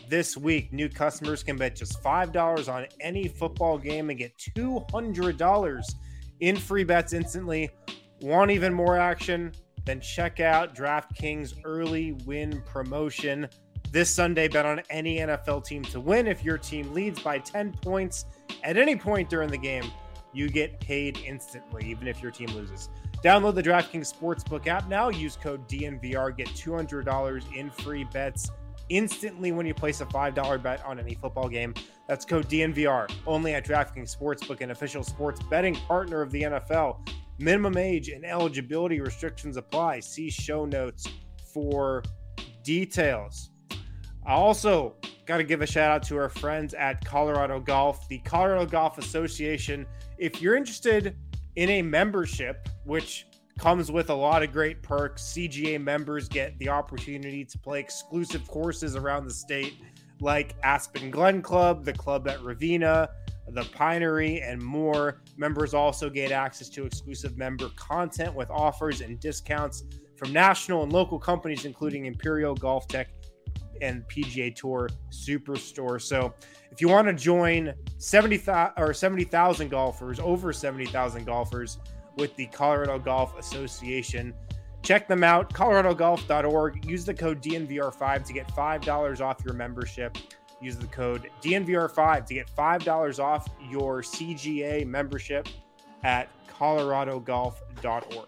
this week. New customers can bet just five dollars on any football game and get two hundred dollars in free bets instantly. Want even more action? Then check out DraftKings early win promotion. This Sunday, bet on any N F L team to win. If your team leads by ten points at any point during the game, you get paid instantly, even if your team loses. Download the DraftKings Sportsbook app now. Use code D N V R. Get two hundred dollars in free bets instantly when you place a five dollar bet on any football game. That's code D N V R. Only at DraftKings Sportsbook, an official sports betting partner of the N F L. Minimum age and eligibility restrictions apply. See show notes for details. I also got to give a shout out to our friends at Colorado Golf, the Colorado Golf Association. If you're interested in a membership, which comes with a lot of great perks, C G A members get the opportunity to play exclusive courses around the state like Aspen Glen Club, the club at Ravenna, the Pinery, and more. Members also get access to exclusive member content with offers and discounts from national and local companies, including Imperial Golf Tech and P G A Tour Superstore. So if you want to join seventy thousand or seventy thousand golfers, over seventy thousand golfers with the Colorado Golf Association, check them out, colorado golf dot org. Use the code D N V R five to get five dollars off your membership. Use the code D N V R five to get five dollars off your C G A membership at colorado golf dot org.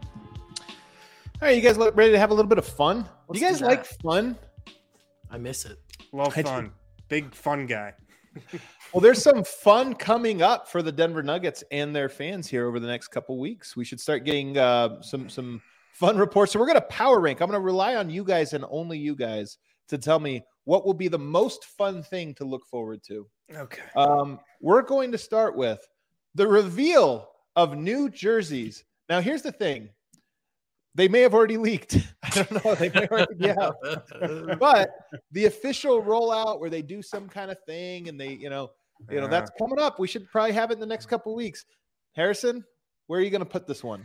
All right, you guys ready to have a little bit of fun?
Let's
you guys
do
like
that.
fun?
I miss it.
Love
I
fun.
do.
Big fun guy.
Well, there's some fun coming up for the Denver Nuggets and their fans here over the next couple weeks. We should start getting uh, some some fun reports. So we're going to power rank. I'm going to rely on you guys and only you guys to tell me what will be the most fun thing to look forward to.
Okay.
Um, we're going to start with the reveal of new jerseys. Now, here's the thing. They may have already leaked. I don't know. They may already be out. But the official rollout where they do some kind of thing and they, you know, you know, that's coming up. We should probably have it in the next couple of weeks. Harrison, where are you going to put this one?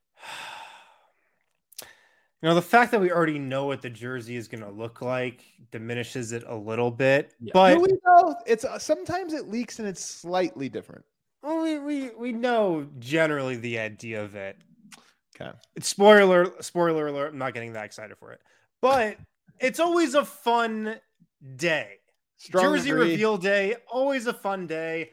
You know, the fact that we already know what the jersey is going to look like diminishes it a little bit.
Yeah.
But
Do we know? It's uh, sometimes it leaks and it's slightly different.
well, we, we we know generally the idea of it.
Okay.
It's spoiler spoiler alert. I'm not getting that excited for it, but it's always a fun day.
Strong
Jersey
agree.
reveal day, always a fun day.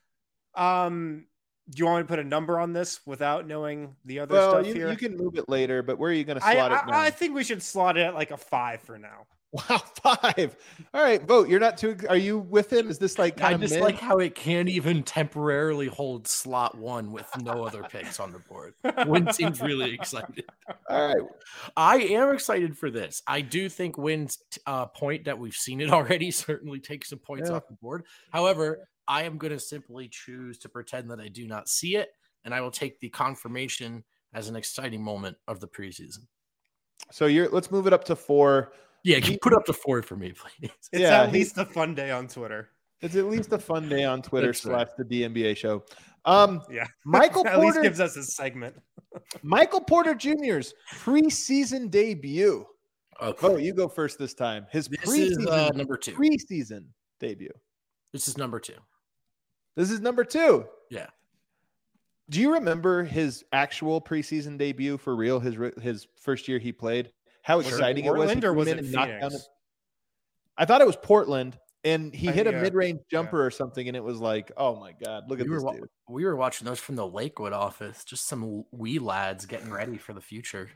Um, do you want me to put a number on this without knowing the other
Well,
stuff
you,
here?
you can move it later, but where are you going to
I,
slot it now?
I, I think we should slot it at like a five for now.
Wow, five. All right, vote. You're not too. Are you with him? Is this like kind
I
of
just
mid?
like how it can't even temporarily hold slot one with no other picks on the board. Win seems really excited.
All right.
I am excited for this. I do think Wynn's uh, point that we've seen it already certainly takes some points
Yeah.
off the board. However, I am going to simply choose to pretend that I do not see it, and I will take the confirmation as an exciting moment of the preseason.
So you're. Let's move it up to four.
Yeah, can you put up to four for me, please?
It's
Yeah,
at
he-
least a fun day on Twitter.
It's at least a fun day on Twitter
That's
slash
right.
the D N B A show. Um,
Yeah,
Michael
at least
Porter.
gives us a segment.
Michael Porter Junior's preseason debut.
Okay.
Oh, you go first this time. His
This
preseason
is uh, number two.
preseason debut.
This is number two.
This is number two.
Yeah.
Do you remember his actual preseason debut for real? His re- his first year he played. How
Was it
exciting it was!
Portland
He
or
came
was
in
it
and knocked
Phoenix?
down a- I thought it was Portland, and he
I-
hit a
yeah,
mid-range jumper
yeah.
or something, and it was like, oh my god, look at
we were
this
wa-
dude.
we were watching those from the Lakewood office. Just some wee lads getting ready for the future.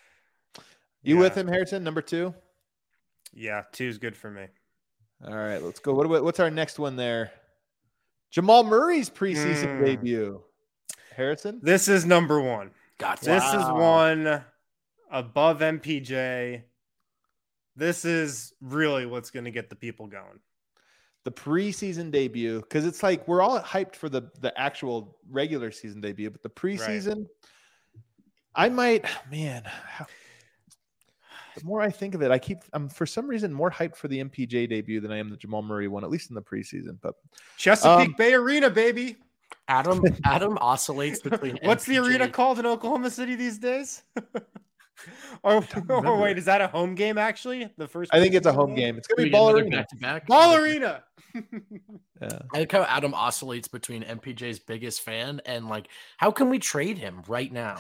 You
Yeah.
with him, Harrison? Number two.
Yeah, two's good for me.
All right, let's go. What about, what's our next one there? Jamal Murray's preseason
Mm.
debut. Harrison?
This is number one.
Got
This is
Wow.
one above M P J. This is really what's going to get the people going.
The preseason debut, because it's like we're all hyped for the, the actual regular season debut, but the preseason, I might, man, how, the more I think of it, I keep, I'm for some reason more hyped for the M P J debut than I am the Jamal Murray one, at least in the preseason. But
Chesapeake
Um,
Bay Arena, baby.
Adam. Adam oscillates between.
What's the
M P J
arena called in Oklahoma City these days? Oh, oh wait, is that a home game? Actually, the first.
I think it's a home
game?
game. It's gonna be
Ball
Ballerina.
back to back.
Ballerina.
Yeah.
I like how Adam oscillates between M P J's biggest fan and like, how can we trade him right now?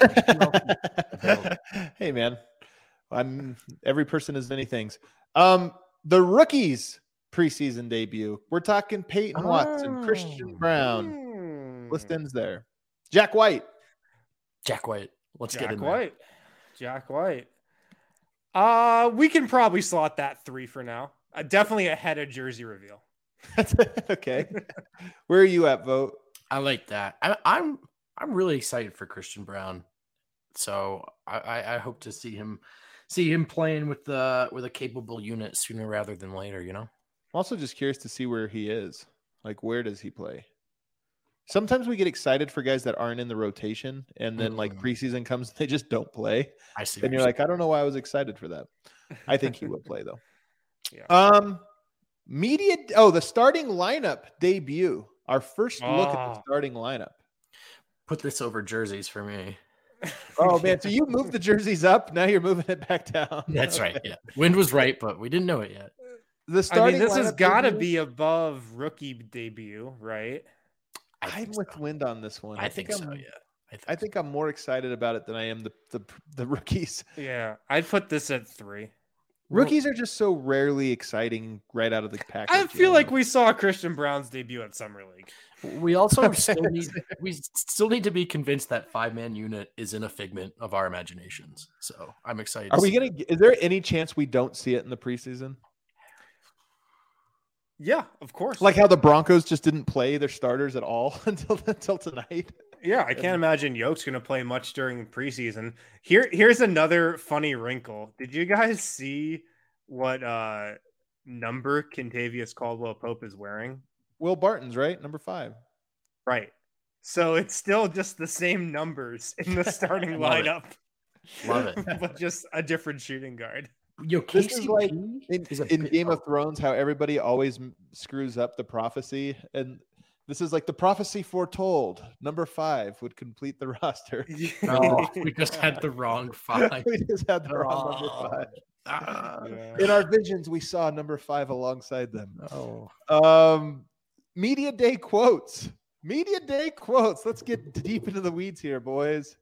Hey man, I'm every person is many things. Um, the rookies preseason debut. We're talking Peyton Watson,
Oh.
Christian Brown.
Hmm.
List ends there. Jack White.
Jack White. Let's get
Jack
in there.
White. Jack White. Uh, we can probably slot that three for now. Uh, definitely ahead of jersey reveal.
Okay. Where are you at, Vote?
I like that. I, I'm I'm really excited for Christian Brown. So I, I, I hope to see him see him playing with the with a capable unit sooner rather than later, you know?
I'm also just curious to see where he is. Like, where does he play? Sometimes we get excited for guys that aren't in the rotation, and then like
Mm.
preseason comes, they just don't play.
I see.
And
what
you're like, I don't know why I was excited for that. I think he will play though.
Yeah.
Um, media. Oh, the starting lineup debut. Our first look at the
Oh.
starting lineup.
put this over jerseys for me.
Oh man, so you moved the jerseys up. Now you're moving it back down.
That's right.
Okay.
Yeah. Wind was right, but we didn't know it yet.
The
I
starting.
mean, this has
lineup
got to
debut?
be above rookie debut, right?
I
I'm
think
with
so.
Wind on this one.
I think
I'm,
so, yeah. I think,
I think I'm more excited about it than I am the the, the rookies.
Yeah, I'd put this at three.
Rookies are just so rarely exciting right out of the package.
I
you
feel
know?
like we saw Christian Brown's debut at Summer League.
we also still need we still need to be convinced that five man unit is in a figment of our imaginations. So I'm excited.
Are
to
we
see
gonna?
that.
Is there any chance we don't see it in the preseason?
Yeah, of course.
Like how the Broncos just didn't play their starters at all until until tonight.
Yeah, I can't imagine Yoke's going to play much during preseason. Here, here's another funny wrinkle. Did you guys see what uh, number Kentavious Caldwell Pope is wearing?
Will Barton's right, number five.
Right. So it's still just the same numbers in the starting
Love it.
lineup,
Love it.
but just a different shooting guard.
Yo,
This is
K C P
like In,
is a
in
bit-
Game of Thrones, how everybody always m- screws up the prophecy, and this is like the prophecy foretold. Number five would complete the roster.
Oh, we just had the wrong five.
We just had the wrong
Oh.
number five.
Ah,
Yeah.
In our visions, we saw number five alongside them.
no.
Um, media day quotes. Media day quotes. Let's get deep into the weeds here, boys.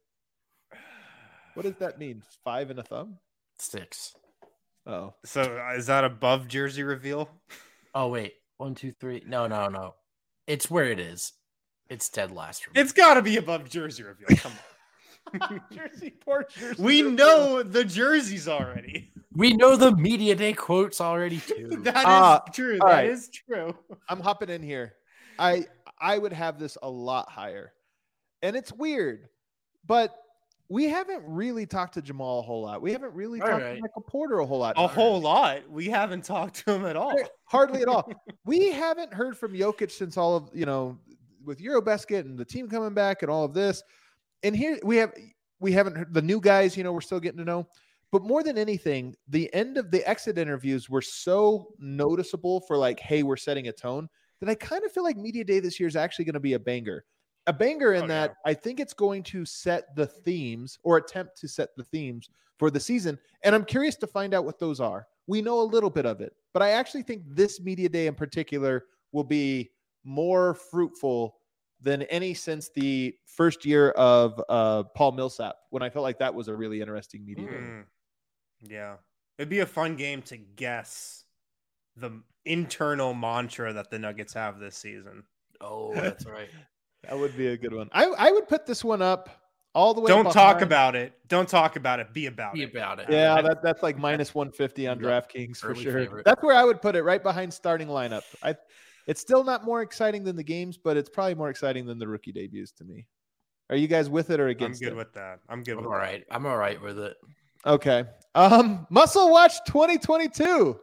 What does that mean? Five and a thumb?
Six.
Oh,
So uh, is that above jersey reveal?
Oh wait, one, two, three. No, no, no. It's where it is. It's dead last. For me.
It's got to be above jersey reveal. Come on.
Jersey, poor Jersey.
We know the jerseys already.
We know the media day quotes already too.
That is
Ah,
true.
all
That
right.
is true.
I'm hopping in here. I I would have this a lot higher. And it's weird, but we haven't really talked to Jamal a whole lot. We haven't really
All
talked
right.
to Michael Porter a whole lot.
A whole lot. We haven't talked to him at all.
Hardly at all. We haven't heard from Jokic since all of, you know, with Eurobasket and the team coming back and all of this. And here we have, we haven't heard the new guys, you know, we're still getting to know. But more than anything, the end of the exit interviews were so noticeable for like, hey, we're setting a tone that I kind of feel like Media Day this year is actually going to be a banger. A banger in
Oh,
that
yeah.
I think it's going to set the themes or attempt to set the themes for the season. And I'm curious to find out what those are. We know a little bit of it, but I actually think this Media Day in particular will be more fruitful than any since the first year of uh, Paul Millsap, when I felt like that was a really interesting Media Day.
Mm. Yeah. It'd be a fun game to guess the internal mantra that the Nuggets have this season.
Oh, that's right.
That would be a good one. I, I would put this one up all the way.
Don't talk
behind-
about it. Don't talk about it. Be about
Be
it.
about it.
Yeah, that, that's like minus one fifty on
Yep.
DraftKings for
Early
sure.
favorite.
That's where I would put it, right behind starting lineup. I, it's still not more exciting than the games, but it's probably more exciting than the rookie debuts to me. Are you guys with it or
I'm
against
good
it?
with that. I'm good
I'm
with
all right. I'm all right with it.
Okay. Um, Muscle Watch twenty twenty-two.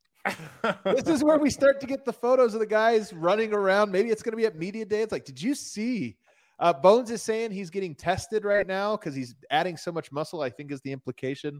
that.
This is where we start to get the photos of the guys running around. Maybe it's going to be at Media Day. It's like, did you see? Uh, Bones is saying he's getting tested right now because he's adding so much muscle, I think is the implication.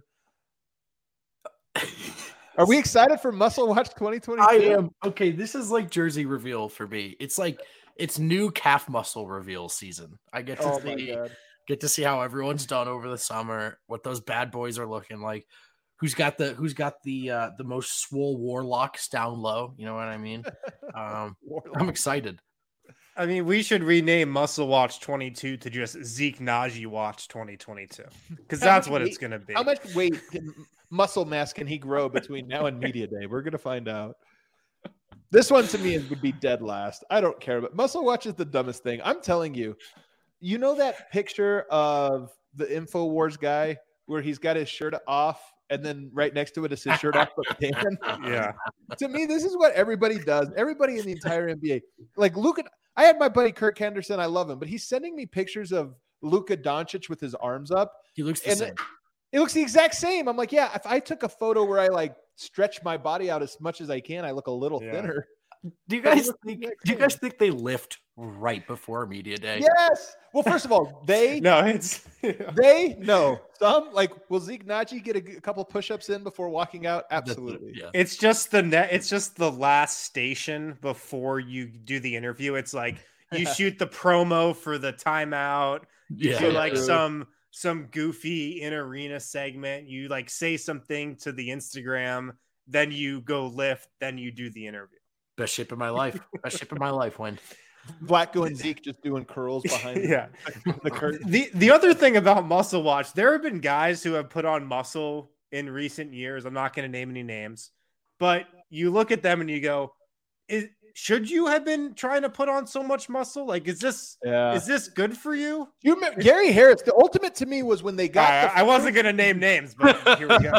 Are we excited for Muscle Watch twenty twenty-two?
I am. Okay, this is like jersey reveal for me. It's like it's new calf muscle reveal season. I get to
Oh my
see
God.
Get to see how everyone's done over the summer, what those bad boys are looking like. Who's got the who's got the uh, the most swole warlocks down low? You know what I mean? Um, I'm excited.
I mean, we should rename Muscle Watch twenty-two to just Zeke Naji Watch twenty twenty-two because that's what
weight,
it's going to be.
How much weight, can, muscle mass can he grow between now and media day? We're going to find out. This one to me would be dead last. I don't care, but Muscle Watch is the dumbest thing. I'm telling you. You know that picture of the InfoWars guy where he's got his shirt off and then right next to it is his shirt off but tan?
Yeah.
To me, this is what everybody does. Everybody in the entire N B A. Like Luka, I had my buddy Kirk Henderson. I love him, but he's sending me pictures of Luka Doncic with his arms up.
He looks the
and
same.
It, it looks the exact same. I'm like, yeah, if I took a photo where I like stretch my body out as much as I can, I look a little
Yeah.
thinner.
Do you guys think? Do you guys think they lift right before media day?
Yes. Well, first of all, they
No, it's
they no some like will Zeke Naji get a, a couple push-ups in before walking out? Absolutely.
Yeah.
it's just the net. It's just the last station before you do the interview. It's like you
Yeah.
shoot the promo for the timeout. You
Yeah.
do like
True.
some some goofy in arena segment. You like say something to the Instagram, then you go lift, then you do the interview.
Best shape of my life. Best shape of my life. When
Blacko and Zeke just doing curls behind
Yeah.
the curtain.
The the other thing about Muscle Watch, there have been guys who have put on muscle in recent years. I'm not going to name any names, but you look at them and you go, is, should you have been trying to put on so much muscle? Like, is this
Yeah.
is this good for you?
You remember Gary Harris? The ultimate to me was when they got
I,
the
I wasn't going to name names, but here we go.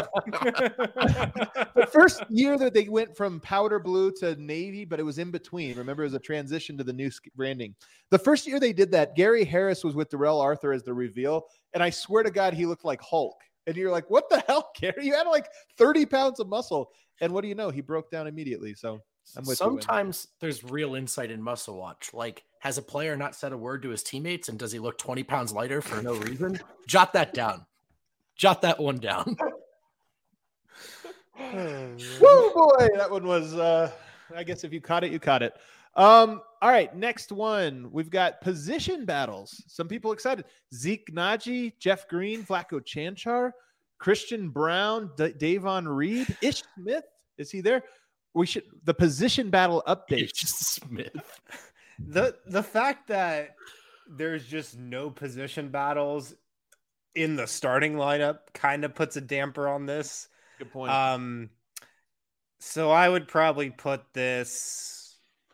the first year that they went from powder blue to navy, but it was in between. Remember, it was a transition to the new branding. The first year they did that, Gary Harris was with Darrell Arthur as the reveal, and I swear to God, he looked like Hulk. And you're like, what the hell, Gary? You had like thirty pounds of muscle, and what do you know? He broke down immediately. So I'm with
sometimes there's real insight in Muscle Watch. Like, has a player not said a word to his teammates, and does he look twenty pounds lighter for no reason? Jot that down. Jot that one down.
Woo boy, that one was uh I guess if you caught it, you caught it. Um, all right, next one. We've got position battles. Some people excited. Zeke Naji, Jeff Green, Flacco Chanchar, Christian Brown, D- Davon Reed, Ish Smith. Is he there? We should the position battle update.
Ish Smith.
The the fact that there's just no position battles in the starting lineup kind of puts a damper on this.
Good point.
Um, so I would probably put this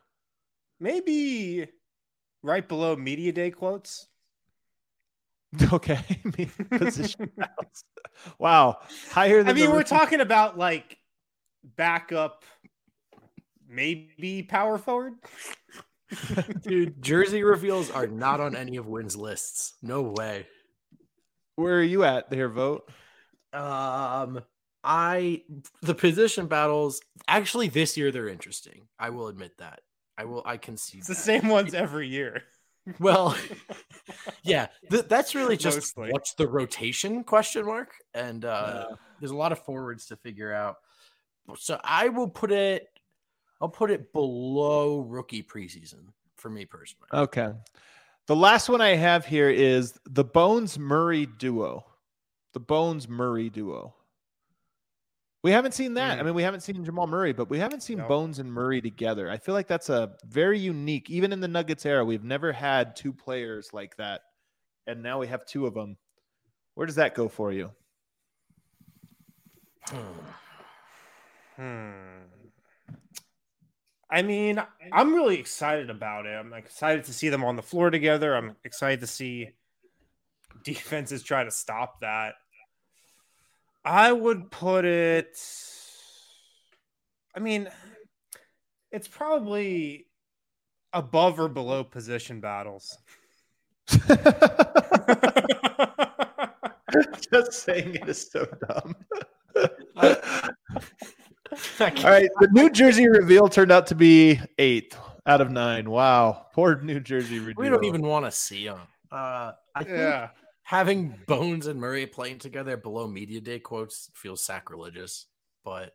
maybe right below media day quotes.
Okay. Position battles. Wow. Higher than
I mean,
the
we're
rookie-
talking about like backup, maybe power forward.
Dude, jersey reveals are not on any of Wynn's lists. No way.
Where are you at there, vote?
Um, I the position battles actually this year they're interesting. I will admit that. I will. I can see
It's the
that.
same ones every year.
Well, yeah, th- that's really just
Mostly.
what's the rotation question mark, and uh,
Yeah.
there's a lot of forwards to figure out. So I will put it. I'll put it below rookie preseason for me personally.
Okay. The last one I have here is the Bones Murray duo. The Bones Murray duo. We haven't seen that.
Mm.
I mean, we haven't seen Jamal Murray, but we haven't seen
No.
Bones and Murray together. I feel like that's a very unique, even in the Nuggets era, we've never had two players like that. And now we have two of them. Where does that go for you?
Hmm. I mean, I'm really excited about it. I'm excited to see them on the floor together. I'm excited to see defenses try to stop that. I would put it. I mean, it's probably above or below position battles.
Just saying it is so dumb. All right. The New Jersey reveal turned out to be eighth out of nine. Wow. Poor New Jersey reveal.
We don't even want to see them. Uh, I think
Yeah.
having Bones and Murray playing together below media day quotes feels sacrilegious, but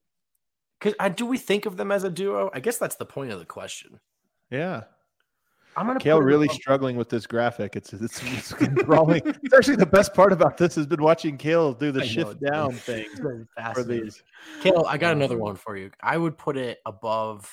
because do we think of them as a duo? I guess that's the point of the question.
Yeah.
I'm gonna
Kale
put it
really
above-
struggling with this graphic. It's it's, it's enthralling. It's actually the best part about this has been watching Kale do the
I know,
shift
it's been-
down thing
it's been
for
fascinating.
these.
Kale, I got
Um,
another one for you. I would put it above.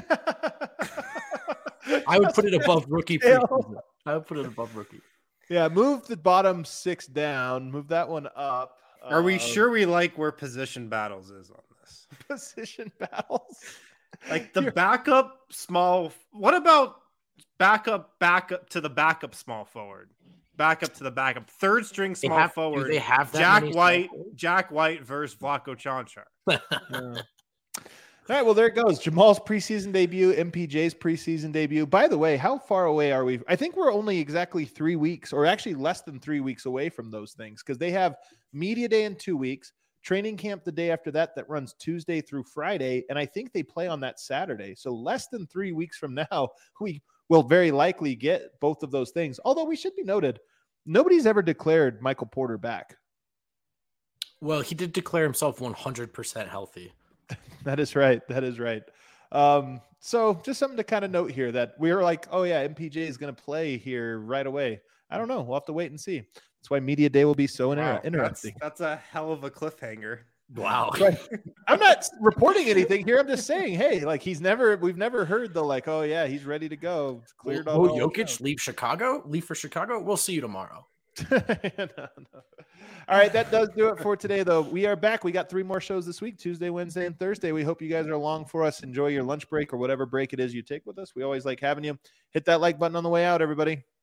I would put it above rookie.
Kale.
preseason. I would put it above rookie.
Yeah, move the bottom six down. Move that one up.
Are we
Uh,
sure we like where position battles is on this?
position battles?
Like the
You're-
backup small. What about backup, backup to the backup small forward? Backup to the backup. Third string
They
small
have, do
forward.
they have that
Jack
many
White,
small forwards?
Jack White versus Vlaco Chanchar.
Yeah. All right, well, there it goes. Jamal's preseason debut, M P J's preseason debut. By the way, how far away are we? I think we're only exactly three weeks, or actually less than three weeks away from those things, because they have media day in two weeks, training camp the day after that, that runs Tuesday through Friday, and I think they play on that Saturday. So less than three weeks from now, we will very likely get both of those things. Although we should be noted, nobody's ever declared Michael Porter back.
Well, he did declare himself one hundred percent healthy.
That is right. That is right. Um, so just something to kind of note here that we were like, oh yeah, M P J is going to play here right away. I don't know. We'll have to wait and see. That's why media day will be so inter-
Wow,
interesting.
That's, that's a hell of a cliffhanger.
Wow.
Right. I'm not reporting anything here. I'm just saying, hey, like he's never, we've never heard the like, oh yeah, he's ready to go. It's cleared on
Will
all
Jokic
accounts.
leave Chicago? Leave for Chicago? We'll see you tomorrow.
no, no. All right, that does do it for today, though. We are back. We got three more shows this week, Tuesday, Wednesday, and Thursday. We hope you guys are along for us. Enjoy your lunch break or whatever break it is you take with us. We always like having you. Hit that like button on the way out, everybody.